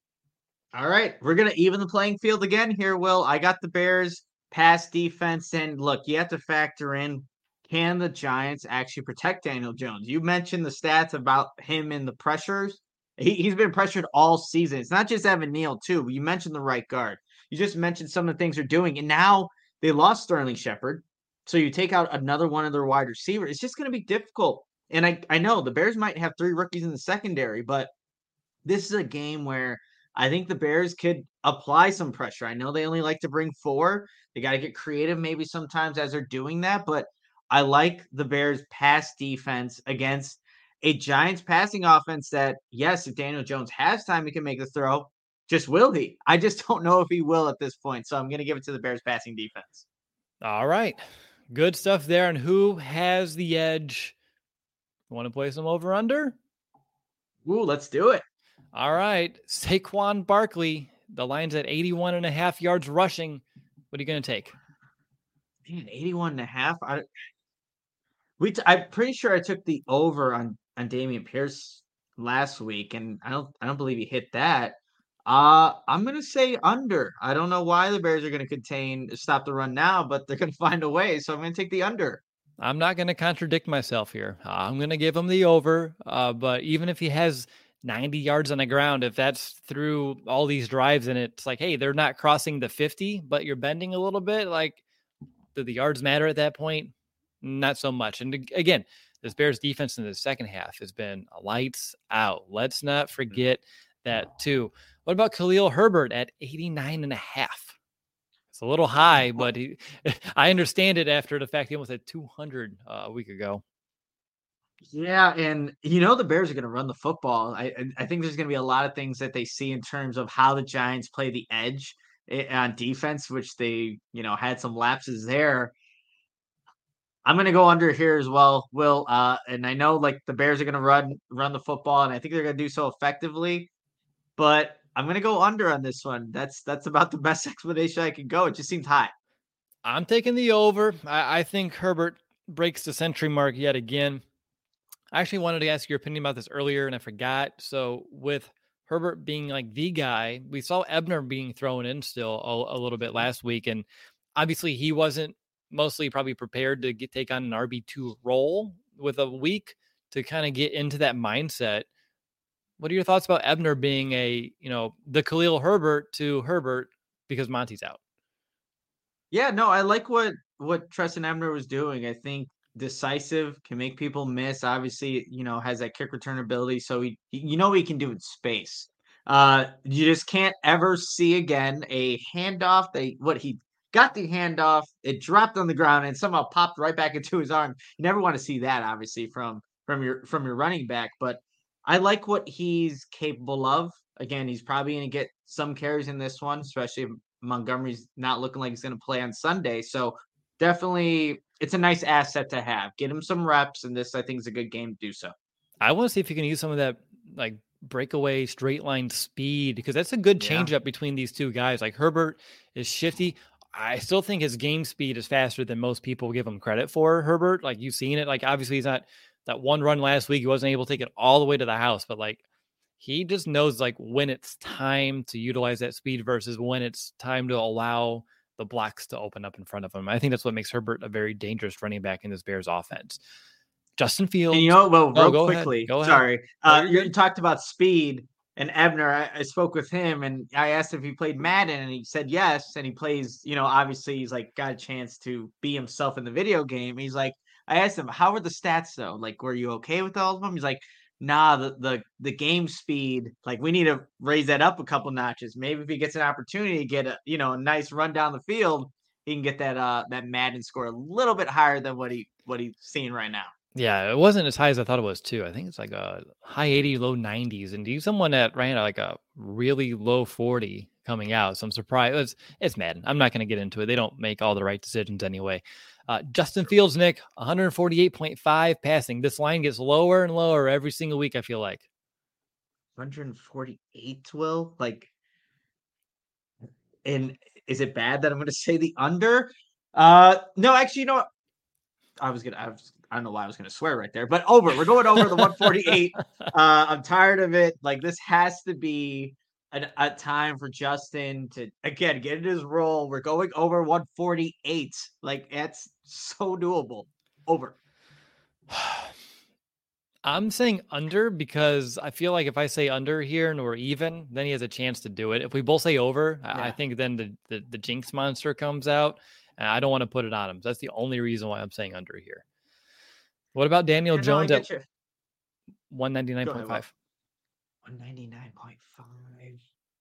All right. We're going to even the playing field again here, Will. I got the Bears pass defense. And look, you have to factor in, can the Giants actually protect Daniel Jones? You mentioned the stats about him in the pressures. He's been pressured all season. It's not just Evan Neal, too. You mentioned the right guard. You just mentioned some of the things they're doing. And now they lost Sterling Shepard. So you take out another one of their wide receivers. It's just going to be difficult. And I know the Bears might have 3 rookies in the secondary, but this is a game where I think the Bears could apply some pressure. I know they only like to bring 4. They got to get creative maybe sometimes as they're doing that, but I like the Bears pass defense against a Giants passing offense that, yes, if Daniel Jones has time, he can make the throw. Just will he? I just don't know if he will at this point. So I'm going to give it to the Bears passing defense. All right. Good stuff there. And who has the edge? Want to play some over under? Ooh, let's do it. All right. Saquon Barkley. The line's at 81.5 yards rushing. What are you going to take? Man, 81.5. I'm pretty sure I took the over on Dameon Pierce last week, and I don't believe he hit that. I'm gonna say under. I don't know why the Bears are gonna stop the run now, but they're gonna find a way. So I'm gonna take the under. I'm not going to contradict myself here. I'm going to give him the over. But even if he has 90 yards on the ground, if that's through all these drives and it's like, hey, they're not crossing the 50, but you're bending a little bit, like, do the yards matter at that point? Not so much. And again, this Bears defense in the second half has been lights out. Let's not forget that too. What about Khalil Herbert at 89.5? It's a little high, but I understand it after the fact he almost had 200 a week ago. Yeah, and the Bears are going to run the football. I think there's going to be a lot of things that they see in terms of how the Giants play the edge on defense, which they had some lapses there. I'm going to go under here as well, Will. And I know like the Bears are going to run the football, and I think they're going to do so effectively. But I'm going to go under on this one. That's about the best explanation I can go. It just seems high. I'm taking the over. I think Herbert breaks the century mark yet again. I actually wanted to ask your opinion about this earlier, and I forgot. So with Herbert being like the guy, we saw Ebner being thrown in still a little bit last week, and obviously he wasn't mostly probably prepared to take on an RB2 role with a week to kind of get into that mindset. What are your thoughts about Ebner being the Khalil Herbert to Herbert because Monty's out? Yeah, no, I like what Trestan Ebner was doing. I think decisive, can make people miss. Obviously, has that kick return ability, so he can do it in space. You just can't ever see again a handoff. He got the handoff, it dropped on the ground and somehow popped right back into his arm. You never want to see that, obviously, from your running back. But I like what he's capable of. Again, he's probably going to get some carries in this one, especially if Montgomery's not looking like he's going to play on Sunday. So definitely, it's a nice asset to have. Get him some reps, and this, I think, is a good game to do so. I want to see if you can use some of that like breakaway straight line speed, because that's a good change up between these two guys. Like Herbert is shifty. I still think his game speed is faster than most people give him credit for. Herbert, like you've seen it. Like obviously he's not that one run last week. He wasn't able to take it all the way to the house, but like he just knows like when it's time to utilize that speed versus when it's time to allow the blocks to open up in front of him. I think that's what makes Herbert a very dangerous running back in this Bears offense. Justin Fields. And real quickly, sorry. You talked about speed and Ebner. I spoke with him and I asked if he played Madden and he said yes. And he plays, obviously he's like got a chance to be himself in the video game. He's like, I asked him, how were the stats though? Like, were you okay with all of them? He's like, nah, the game speed, like we need to raise that up a couple notches. Maybe if he gets an opportunity to get a nice run down the field, he can get that Madden score a little bit higher than what he's seeing right now. Yeah, it wasn't as high as I thought it was too. I think it's like a high 80, low 90s. And do someone that ran like a really low 40 coming out. So I'm surprised. It's Madden. I'm not going to get into it. They don't make all the right decisions anyway. Justin Fields, Nick, 148.5 passing. This line gets lower and lower every single week, I feel like. 148, Will? Like, and is it bad that I'm going to say the under? No, actually, you know what? I don't know why I was going to swear right there, but over. We're going over the 148. I'm tired of it. Like, this has to be a time for Justin to, again, get in his role. We're going over 148. Like, that's so doable. Over. I'm saying under because I feel like if I say under here and we're even, then he has a chance to do it. If we both say over, I think then the jinx monster comes out. And I don't want to put it on him. That's the only reason why I'm saying under here. What about Daniel Jones at 199.5? 199.5.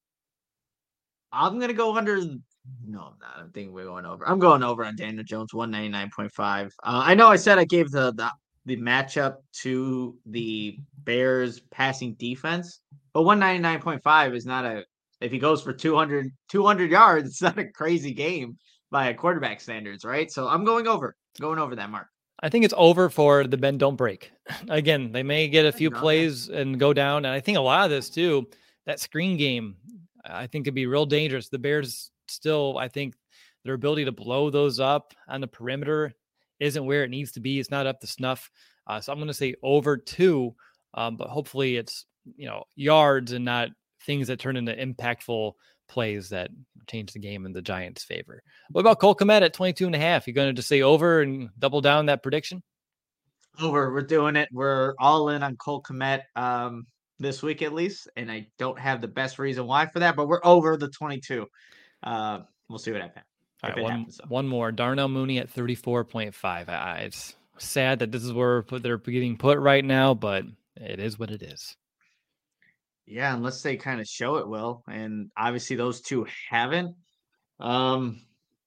I'm going to go under. No, I'm not. I think we're going over. I'm going over on Daniel Jones, 199.5. I know I said I gave the matchup to the Bears passing defense, but 199.5 is not a, if he goes for 200 yards, it's not a crazy game by a quarterback standards, right? So I'm going over that mark. I think it's over for the bend don't break. Again, they may get a few plays and go down. And I think a lot of this too, that screen game, I think could be real dangerous. The Bears still, I think their ability to blow those up on the perimeter isn't where it needs to be. It's not up to snuff. So I'm going to say over 2, but hopefully it's, yards and not things that turn into impactful plays that change the game in the Giants' favor. What about Cole Kmet at 22.5? You going to just say over and double down that prediction? Over. We're doing it. We're all in on Cole Kmet this week at least, and I don't have the best reason why for that, but we're over the 22. We'll see what happens. All right, one more. Darnell Mooney at 34.5. It's sad that this is where they're getting put right now, but it is what it is. Yeah, unless they kind of show it will, and obviously those two haven't. I'm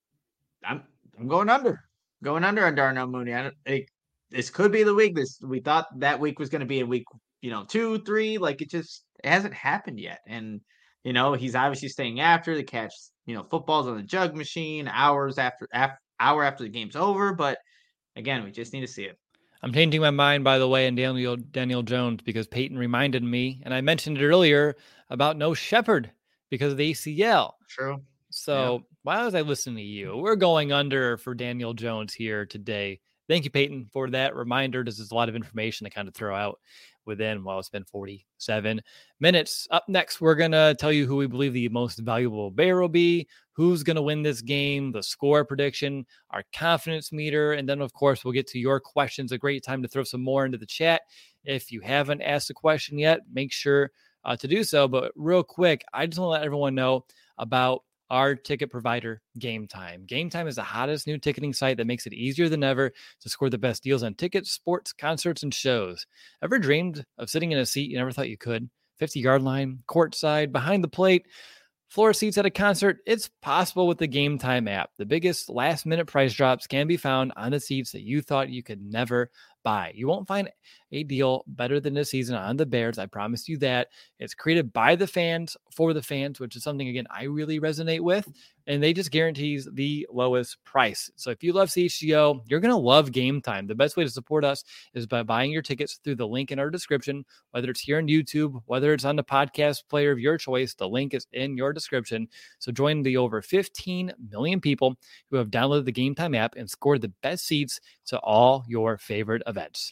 going under on Darnell Mooney. This could be the week. We thought that week was going to be a week, 2, 3. Like it hasn't happened yet, and he's obviously staying after the catch. Football's on the jug machine hour after the game's over. But again, we just need to see it. I'm changing my mind, by the way, in Daniel Jones, because Peyton reminded me, and I mentioned it earlier, about no Shepard because of the ACL. True. So why was I listening to you? We're going under for Daniel Jones here today. Thank you, Peyton, for that reminder. This is a lot of information to kind of throw out within, it's been 47 minutes. Up next, we're going to tell you who we believe the most valuable Bear will be, who's going to win this game, the score prediction, our confidence meter, and then, of course, we'll get to your questions. A great time to throw some more into the chat. If you haven't asked a question yet, make sure to do so. But real quick, I just want to let everyone know about our ticket provider, Game Time. Game Time is the hottest new ticketing site that makes it easier than ever to score the best deals on tickets, sports, concerts, and shows. Ever dreamed of sitting in a seat you never thought you could? 50-yard line, courtside, behind the plate, floor seats at a concert? It's possible with the Game Time app. The biggest last-minute price drops can be found on the seats that you thought you could never buy. You won't find a deal better than this season on the Bears. I promise you that. It's created by the fans for the fans, which is something, again, I really resonate with. And they just guarantees the lowest price. So if you love CHGO, you're going to love Game Time. The best way to support us is by buying your tickets through the link in our description, whether it's here on YouTube, whether it's on the podcast player of your choice. The link is in your description. So join the over 15 million people who have downloaded the Game Time app and scored the best seats to all your favorite events.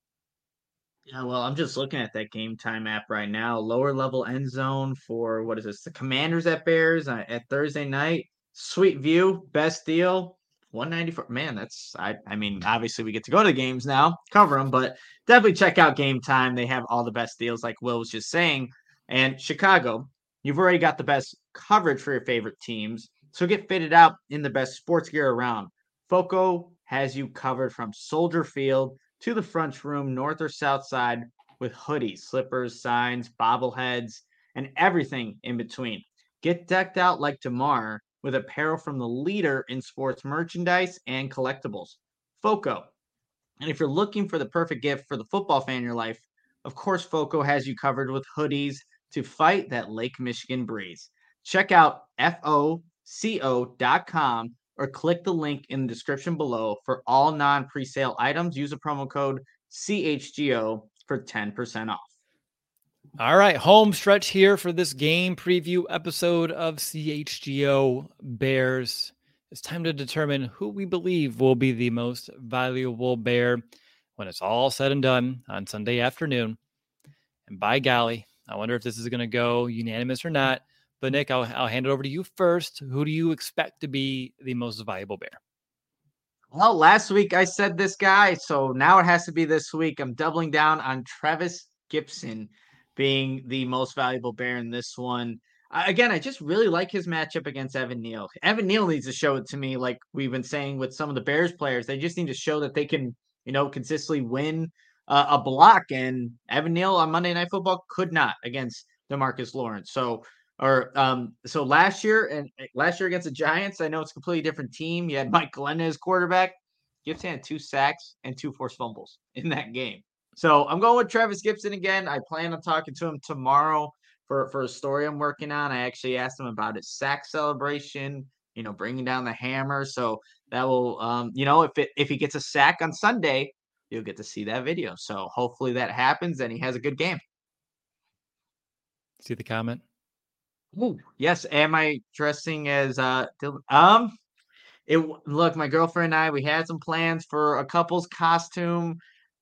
Yeah, well, I'm just looking at that Game Time app right now. Lower level end zone for, what is this? The Commanders at Bears at Thursday night. Sweet view, best deal, 194. Man, I mean, obviously we get to go to the games now, cover them, but definitely check out Game Time. They have all the best deals, like Will was just saying. And Chicago, you've already got the best coverage for your favorite teams. So get fitted out in the best sports gear around. Foco has you covered from Soldier Field to the front room, north or south side, with hoodies, slippers, signs, bobbleheads, and everything in between. Get decked out like DeMar with apparel from the leader in sports merchandise and collectibles, Foco. And if you're looking for the perfect gift for the football fan in your life, of course, Foco has you covered with hoodies to fight that Lake Michigan breeze. Check out FOCO.com or click the link in the description below for all non-presale items. Use a promo code CHGO for 10% off. All right, home stretch here for this game preview episode of CHGO Bears. It's time to determine who we believe will be the most valuable Bear when it's all said and done on Sunday afternoon. And by golly, I wonder if this is going to go unanimous or not. But Nick, I'll hand it over to you first. Who do you expect to be the most valuable Bear? Well, last week I said this guy, so now it has to be this week. I'm doubling down on Travis Gibson being the most valuable Bear in this one. Again, I just really like his matchup against Evan Neal. Evan Neal needs to show it to me, like we've been saying with some of the Bears players. They just need to show that they can, consistently win a block. And Evan Neal on Monday Night Football could not against DeMarcus Lawrence. So last year against the Giants, I know it's a completely different team. You had Mike Glennon as quarterback. Gibson had 2 sacks and 2 forced fumbles in that game. So I'm going with Travis Gibson again. I plan on talking to him tomorrow for a story I'm working on. I actually asked him about his sack celebration, bringing down the hammer. So that will, if he gets a sack on Sunday, you'll get to see that video. So hopefully that happens and he has a good game. See the comment? Ooh, yes. Am I dressing as Dylan? Look, my girlfriend and I, we had some plans for a couple's costume.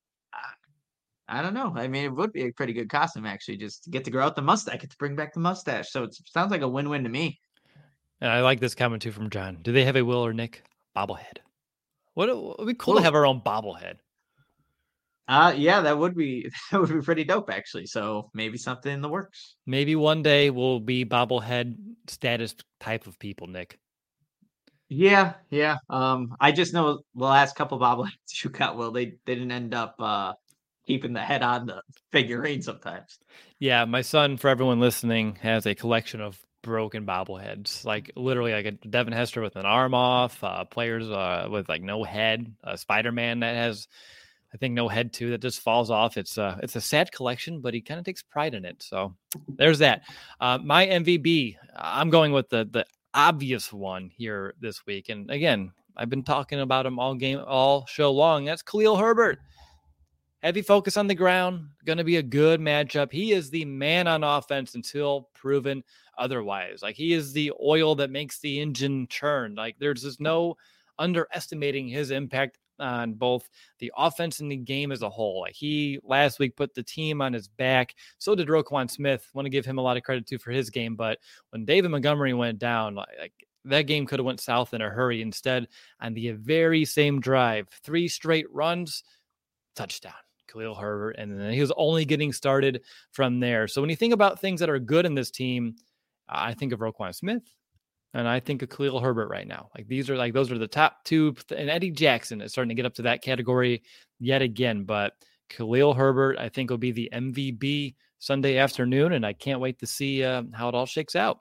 I don't know. I mean, it would be a pretty good costume, actually, just to get to grow out the mustache, get to bring back the mustache. So it sounds like a win-win to me. And I like this comment too from John. Do they have a Will or Nick bobblehead? What would be cool to have our own bobblehead. Yeah, that would be pretty dope, actually. So maybe something in the works. Maybe one day we'll be bobblehead status type of people, Nick. Yeah. I just know the last couple bobbleheads you got, well, they didn't end up keeping the head on the figurine sometimes. Yeah, my son, for everyone listening, has a collection of broken bobbleheads, like literally like a Devin Hester with an arm off, players with like no head, Spider-Man that has, I think, no head too, that just falls off. It's a sad collection, but he kind of takes pride in it. So there's that. My MVP, I'm going with the obvious one here this week. And again, I've been talking about him all show long. That's Khalil Herbert. Heavy focus on the ground, going to be a good matchup. He is the man on offense until proven otherwise. Like, he is the oil that makes the engine churn. Like, there's just no underestimating his impact on both the offense and the game as a whole. Like, he last week put the team on his back. So did Roquan Smith. Want to give him a lot of credit too for his game. But when David Montgomery went down, like that game could have went south in a hurry. Instead, on the very same drive, 3 straight runs, touchdown. Khalil Herbert, and then he was only getting started from there. So when you think about things that are good in this team, I think of Roquan Smith, and I think of Khalil Herbert right now. Like, those are the top 2, and Eddie Jackson is starting to get up to that category yet again. But Khalil Herbert, I think, will be the MVP Sunday afternoon, and I can't wait to see how it all shakes out.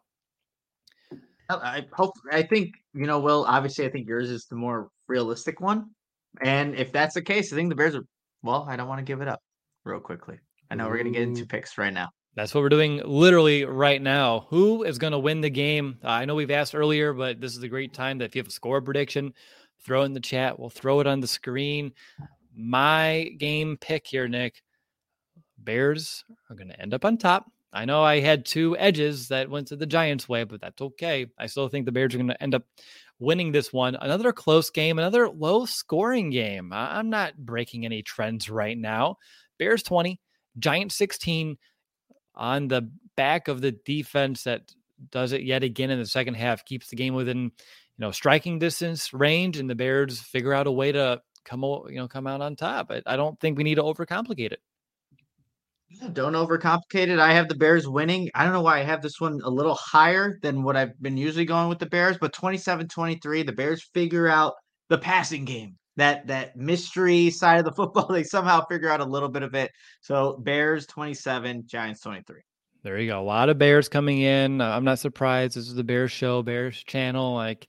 I think, Will, obviously I think yours is the more realistic one. And if that's the case, I think the Bears are, well, I don't want to give it up real quickly. I know we're going to get into picks right now. That's what we're doing literally right now. Who is going to win the game? I know we've asked earlier, but this is a great time that if you have a score prediction, throw it in the chat. We'll throw it on the screen. My game pick here, Nick. Bears are going to end up on top. I know I had 2 edges that went to the Giants' way, but that's okay. I still think the Bears are going to end up winning this one. Another close game, another low-scoring game. I'm not breaking any trends right now. Bears 20, Giants 16, on the back of the defense that does it yet again in the second half, keeps the game within, striking distance range, and the Bears figure out a way to come out on top. I don't think we need to overcomplicate it. Don't overcomplicate it. I have the Bears winning. I don't know why I have this one a little higher than what I've been usually going with the Bears, but 27-23, the Bears figure out the passing game. That mystery side of the football, they somehow figure out a little bit of it. So Bears 27, Giants 23. There you go. A lot of Bears coming in. I'm not surprised. This is the Bears show, Bears channel. Like,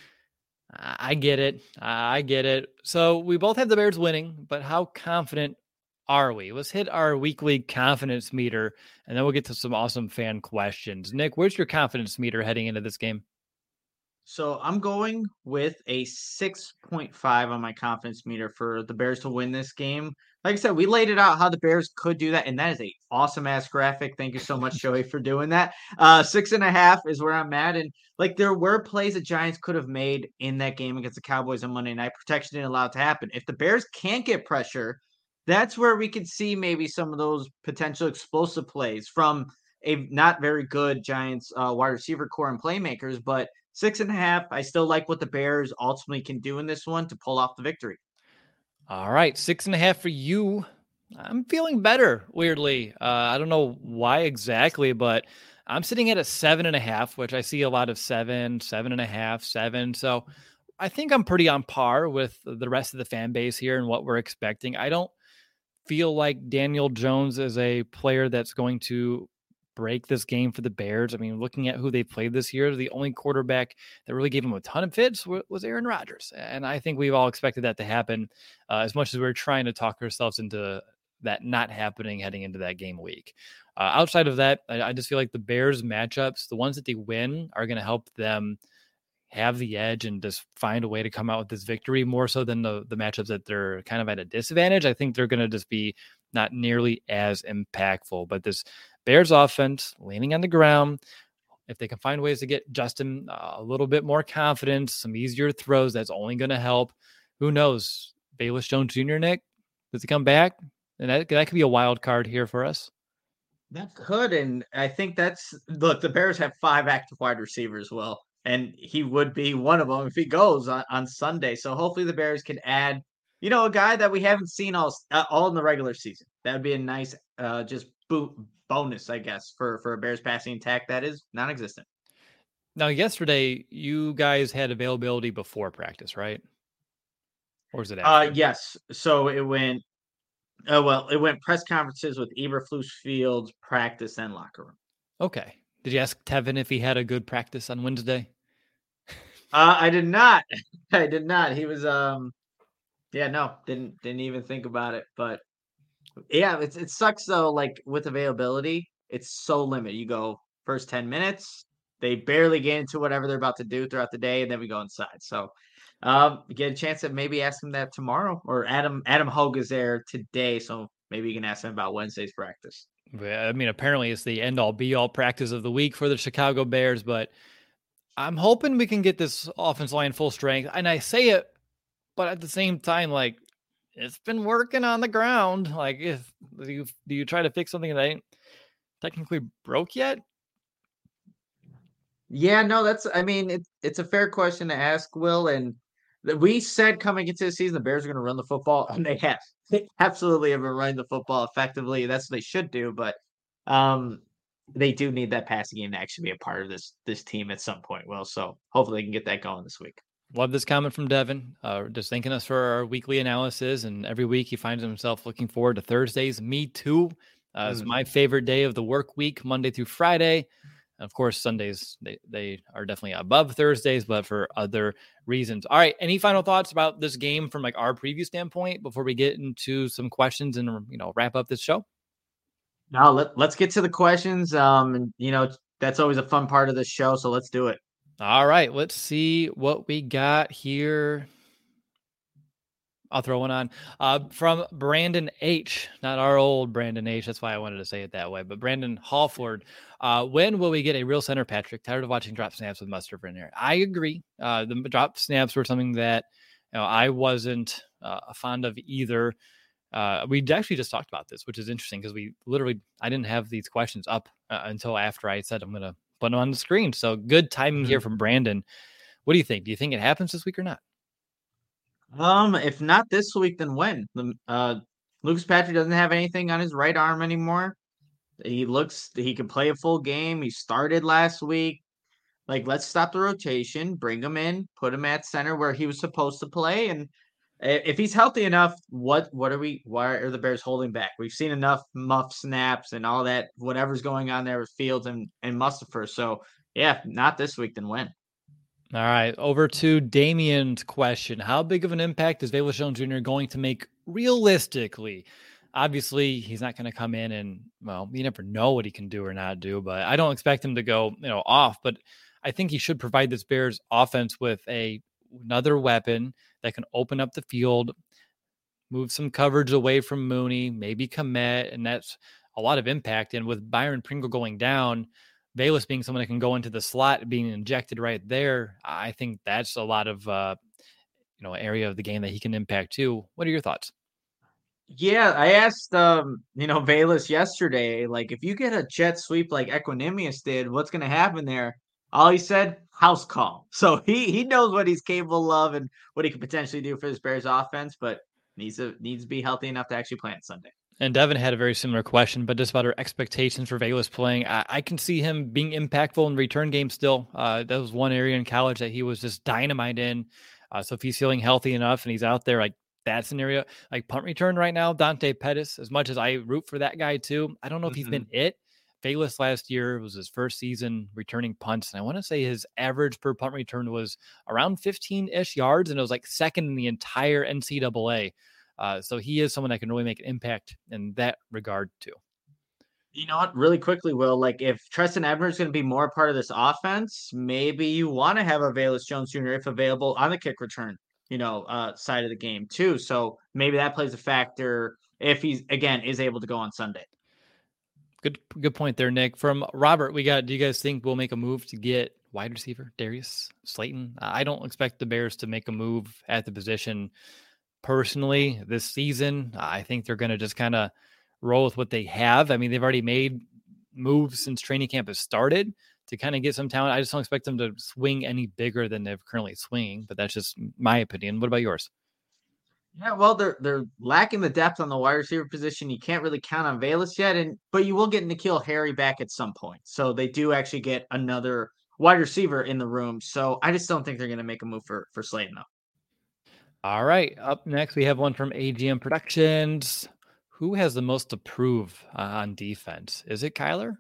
I get it. I get it. So we both have the Bears winning, but how confident are we? Let's hit our weekly confidence meter, and then we'll get to some awesome fan questions. Nick, where's your confidence meter heading into this game? So I'm going with a 6.5 on my confidence meter for the Bears to win this game. Like I said, we laid it out how the Bears could do that, and that is a awesome ass graphic. Thank you so much, Joey, for doing that. 6.5 is where I'm at, and like there were plays the Giants could have made in that game against the Cowboys on Monday night. Protection didn't allow it to happen. If the Bears can't get pressure, that's where we could see maybe some of those potential explosive plays from a not very good Giants wide receiver core and playmakers, but 6.5. I still like what the Bears ultimately can do in this one to pull off the victory. All right, 6.5 for you. I'm feeling better, weirdly. I don't know why exactly, but I'm sitting at a 7.5, which I see a lot of 7, 7.5, 7. So I think I'm pretty on par with the rest of the fan base here and what we're expecting. I don't feel like Daniel Jones is a player that's going to break this game for the Bears. I mean, looking at who they played this year, the only quarterback that really gave him a ton of fits was Aaron Rodgers. And I think we've all expected that to happen as much as we're trying to talk ourselves into that not happening heading into that game week. Outside of that, I just feel like the Bears matchups, the ones that they win, are going to help them have the edge and just find a way to come out with this victory more so than the matchups that they're kind of at a disadvantage. I think they're going to just be not nearly as impactful. But this Bears offense leaning on the ground, if they can find ways to get Justin a little bit more confidence, some easier throws, that's only going to help. Who knows? Velus Jones Jr., Nick, does he come back? And that could be a wild card here for us. That could, and I think look, the Bears have 5 active wide receivers, Will, and he would be one of them if he goes on Sunday. So hopefully the Bears can add, a guy that we haven't seen all in the regular season. That would be a nice bonus, I guess, for a Bears passing attack that is non-existent. Now, yesterday, you guys had availability before practice, right? Or was it after? Yes. So it went it went press conferences with Eberflus Fields, practice, and locker room. Okay. Did you ask Tevin if he had a good practice on Wednesday? I did not. I did not. He was didn't even think about it. But yeah, it sucks though. Like with availability, it's so limited. You go first 10 minutes, they barely get into whatever they're about to do throughout the day, and then we go inside. So get a chance to maybe ask him that tomorrow, or Adam Hogue is there today, so maybe you can ask him about Wednesday's practice. I mean, apparently it's the end all be all practice of the week for the Chicago Bears, but I'm hoping we can get this offense line full strength. And I say it, but at the same time, like, it's been working on the ground. Like, do you try to fix something that ain't technically broke yet? Yeah, no, it's a fair question to ask, Will. And we said coming into the season, the Bears are going to run the football, and they have. They absolutely have been running the football effectively. That's what they should do, but they do need that passing game to actually be a part of this team at some point, Will. So hopefully they can get that going this week. Love this comment from Devin, just thanking us for our weekly analysis. And every week he finds himself looking forward to Thursdays. Me too. It's my favorite day of the work week, Monday through Friday. Of course, Sundays, they are definitely above Thursdays, but for other reasons. All right. Any final thoughts about this game from like our preview standpoint before we get into some questions and, wrap up this show? No, let's get to the questions. And that's always a fun part of the show. So let's do it. All right. Let's see what we got here. I'll throw one on from Brandon H. Not our old Brandon H. That's why I wanted to say it that way. But Brandon Hallford, when will we get a real center, Patrick? Tired of watching drop snaps with Mustard in there. I agree. The drop snaps were something that I wasn't fond of either. We actually just talked about this, which is interesting because I didn't have these questions up until after I said I'm going to put them on the screen. So good timing here from Brandon. What do you think? Do you think it happens this week or not? If not this week, then when? Lucas Patrick doesn't have anything on his right arm anymore. He can play a full game. He started last week. Like, let's stop the rotation, bring him in, put him at center where he was supposed to play. And if he's healthy enough, why are the Bears holding back? We've seen enough muff snaps and all that, whatever's going on there with Fields and Mustipher. So yeah, not this week, then when? All right, over to Damien's question. How big of an impact is Velus Jones Jr. going to make realistically? Obviously, he's not going to come in and, you never know what he can do or not do, but I don't expect him to go, off. But I think he should provide this Bears offense with another weapon that can open up the field, move some coverage away from Mooney, maybe Kmet, and that's a lot of impact. And with Byron Pringle going down, Velus being someone that can go into the slot, being injected right there, I think that's a lot of, area of the game that he can impact too. What are your thoughts? Yeah, I asked, Velus yesterday, like, if you get a jet sweep like Equanimeous did, what's going to happen there? All he said, house call. So he knows what he's capable of and what he could potentially do for this Bears offense, but needs to be healthy enough to actually play on Sunday. And Devin had a very similar question, but just about our expectations for Velus playing. I can see him being impactful in return game still. That was one area in college that he was just dynamite in. So if he's feeling healthy enough and he's out there, like that scenario, like punt return right now, Dante Pettis, as much as I root for that guy too, I don't know if he's been it. Velus last year was his first season returning punts. And I want to say his average per punt return was around 15-ish yards. And it was like second in the entire NCAA. So he is someone that can really make an impact in that regard too. You know what? Really quickly, Will, like if Treston Ebner is going to be more part of this offense, maybe you want to have a Velus Jones Jr. if available on the kick return, side of the game too. So maybe that plays a factor if he's again is able to go on Sunday. Good point there, Nick. From Robert, do you guys think we'll make a move to get wide receiver Darius Slayton? I don't expect the Bears to make a move at the position personally this season. I think they're going to just kind of roll with what they have. I mean, they've already made moves since training camp has started to kind of get some talent. I just don't expect them to swing any bigger than they're currently swinging, but that's just my opinion. What about yours? Yeah, well, they're lacking the depth on the wide receiver position. You can't really count on Velus yet, but you will get N'Keal Harry back at some point. So they do actually get another wide receiver in the room. So I just don't think they're going to make a move for Slayton though. All right, up next we have one from AGM Productions. Who has the most to prove on defense? Is it Kyler?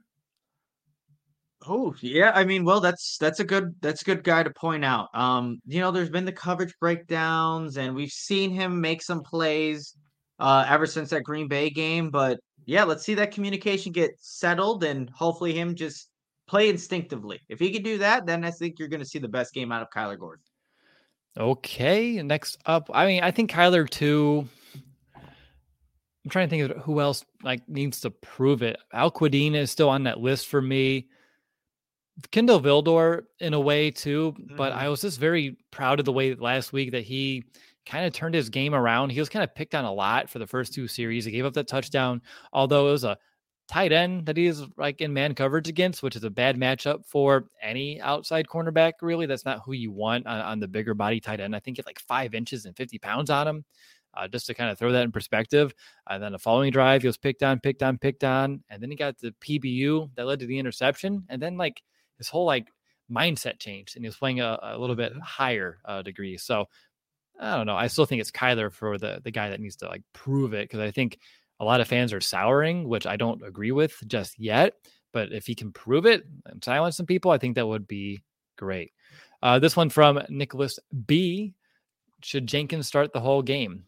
Oh yeah, I mean, well, that's a good guy to point out. There's been the coverage breakdowns, and we've seen him make some plays ever since that Green Bay game. But yeah, let's see that communication get settled, and hopefully him just play instinctively. If he can do that, then I think you're going to see the best game out of Kyler Gordon. Okay, next up, I mean, I think Kyler too. I'm trying to think of who else needs to prove it. Al Quadin is still on that list for me. Kindle Vildor in a way too, but I was just very proud of the way last week that he kind of turned his game around. He was kind of picked on a lot for the first two series. He gave up that touchdown, although it was a tight end that he is in man coverage against, which is a bad matchup for any outside cornerback. Really, that's not who you want on the bigger body tight end. I think it's 5 inches and 50 pounds on him. Just to kind of throw that in perspective. And then the following drive, he was picked on. And then he got the PBU that led to the interception. And then his whole mindset changed and he was playing a little bit higher degree. So I don't know. I still think it's Kyler for the guy that needs to prove it. Cause I think a lot of fans are souring, which I don't agree with just yet, but if he can prove it and silence some people, I think that would be great. This one from Nicholas B. Should Jenkins start the whole game?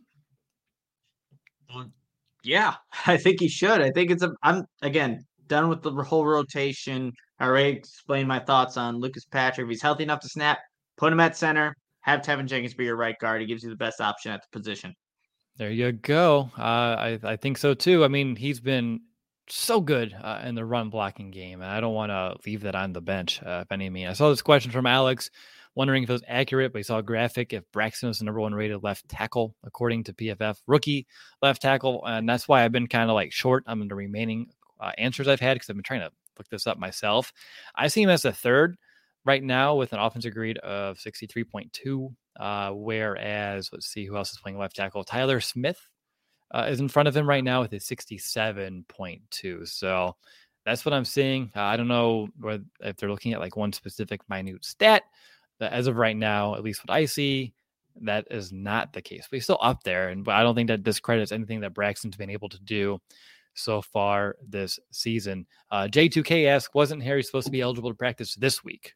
Yeah, I think he should. I think I'm again done with the whole rotation. I already explained my thoughts on Lucas Patrick. If he's healthy enough to snap, put him at center. Have Tevin Jenkins be your right guard. He gives you the best option at the position. There you go. I think so too. I mean, he's been so good in the run blocking game, and I don't want to leave that on the bench. If any mean, I saw this question from Alex, wondering if it was accurate, but he saw a graphic if Braxton was the number 1 rated left tackle according to PFF rookie left tackle, and that's why I've been kind of short on the remaining answers I've had because I've been trying to look this up myself. I see him as a third right now with an offensive grade of 63.2. Whereas, let's see who else is playing left tackle. Tyler Smith is in front of him right now with a 67.2. So that's what I'm seeing. I don't know if they're looking at one specific minute stat. But as of right now, at least what I see, that is not the case. But he's still up there, but I don't think that discredits anything that Braxton's been able to do so far this season. J2K asks, wasn't Harry supposed to be eligible to practice this week?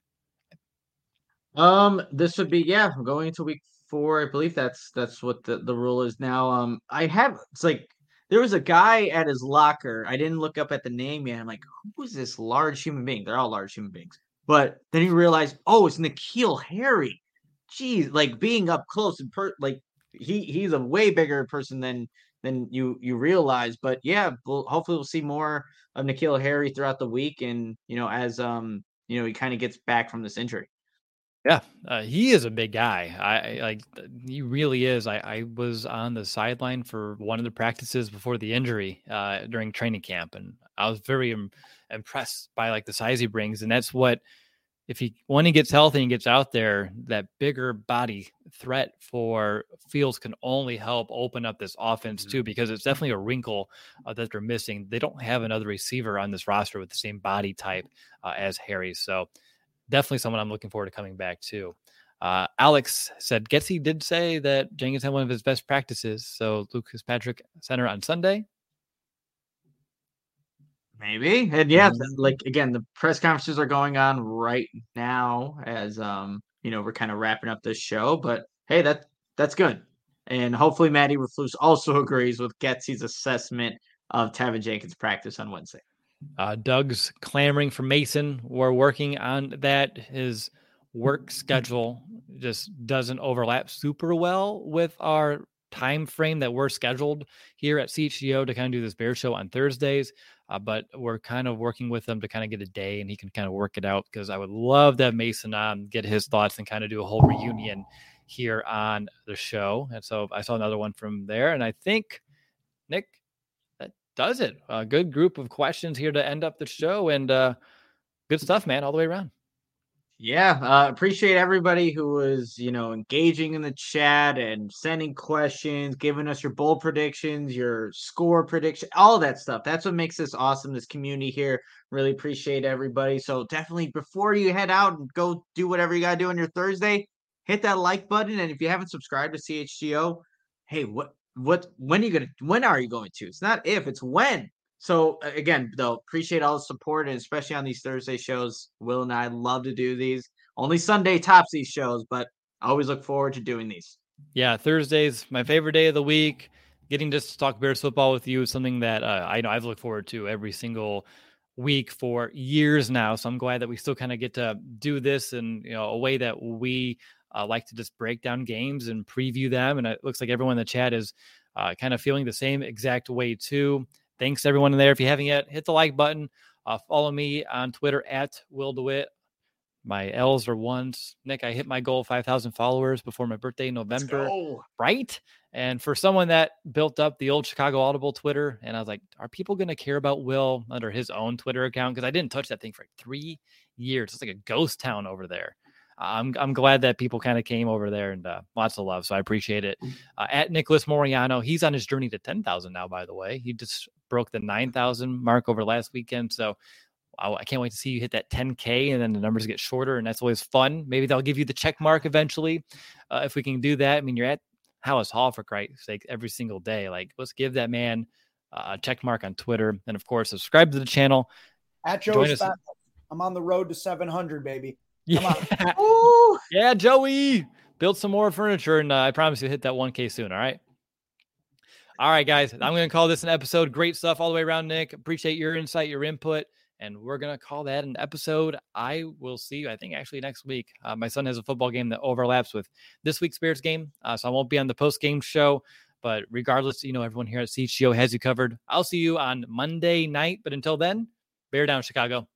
This would be going into week 4. I believe that's what the rule is now. There was a guy at his locker. I didn't look up at the name yet. I'm like, who is this large human being? They're all large human beings. But then he realized, oh, it's N'Keal Harry. Geez, being up close and he's a way bigger person than you realize. But yeah, hopefully we'll see more of N'Keal Harry throughout the week, and as he kind of gets back from this injury. Yeah, he is a big guy. He really is. I was on the sideline for one of the practices before the injury during training camp, and I was very impressed by the size he brings, and that's what when he gets healthy and gets out there, that bigger body threat for Fields can only help open up this offense too, because it's definitely a wrinkle that they're missing. They don't have another receiver on this roster with the same body type as Harry. So definitely someone I'm looking forward to coming back to. Alex said Getsy did say that Jenkins had one of his best practices. So Lucas Patrick Center on Sunday. Maybe. And yeah, like again, the press conferences are going on right now as we're kind of wrapping up this show. But hey, that's good. And hopefully Maddie Reflus also agrees with Getsy's assessment of Tevin Jenkins' practice on Wednesday. Doug's clamoring for Mason. We're working on that. His work schedule just doesn't overlap super well with our time frame that we're scheduled here at CHGO to kind of do this Bear Show on Thursdays. But we're kind of working with him to kind of get a day and he can kind of work it out, because I would love to have Mason on, get his thoughts, and kind of do a whole reunion here on the show. And so I saw another one from there, and I think, Nick, that does it. A good group of questions here to end up the show, and good stuff, man, all the way around. Yeah, appreciate everybody who was, engaging in the chat and sending questions, giving us your bold predictions, your score prediction, all that stuff. That's what makes this awesome, this community here. Really appreciate everybody. So definitely, before you head out and go do whatever you got to do on your Thursday, hit that like button. And if you haven't subscribed to CHGO, hey, when are you going to? It's not if, it's when. So again, though, appreciate all the support, and especially on these Thursday shows. Will and I love to do these. Only Sunday tops these shows, but I always look forward to doing these. Yeah, Thursday's my favorite day of the week. Getting just to talk Bears football with you is something that I know I've looked forward to every single week for years now. So I'm glad that we still kind of get to do this in a way that we like to just break down games and preview them. And it looks like everyone in the chat is kind of feeling the same exact way too. Thanks to everyone in there. If you haven't yet, hit the like button. Follow me on Twitter at Will DeWitt. My L's are ones. Nick, I hit my goal of 5,000 followers before my birthday in November. Right? And for someone that built up the old Chicago Audible Twitter, and I was like, are people going to care about Will under his own Twitter account? Because I didn't touch that thing for 3 years. It's like a ghost town over there. I'm glad that people kind of came over there, and lots of love. So I appreciate it. At Nicholas Moriano, he's on his journey to 10,000 now, by the way. He just broke the 9,000 mark over last weekend. So I can't wait to see you hit that 10K, and then the numbers get shorter, and that's always fun. Maybe they'll give you the check mark eventually if we can do that. I mean, you're at Hallis Hall, for Christ's sake, every single day. Like, let's give that man a check mark on Twitter. And, of course, subscribe to the channel. At Joe's Fat. I'm on the road to 700, baby. Yeah. Yeah, Joey. Build some more furniture, and I promise you hit that 1K soon, all right? All right, guys. I'm going to call this an episode. Great stuff all the way around, Nick. Appreciate your insight, your input, and we're going to call that an episode. I will see you, I think, actually next week. My son has a football game that overlaps with this week's Bears game, so I won't be on the post-game show. But regardless, everyone here at CHGO has you covered. I'll see you on Monday night. But until then, bear down, Chicago.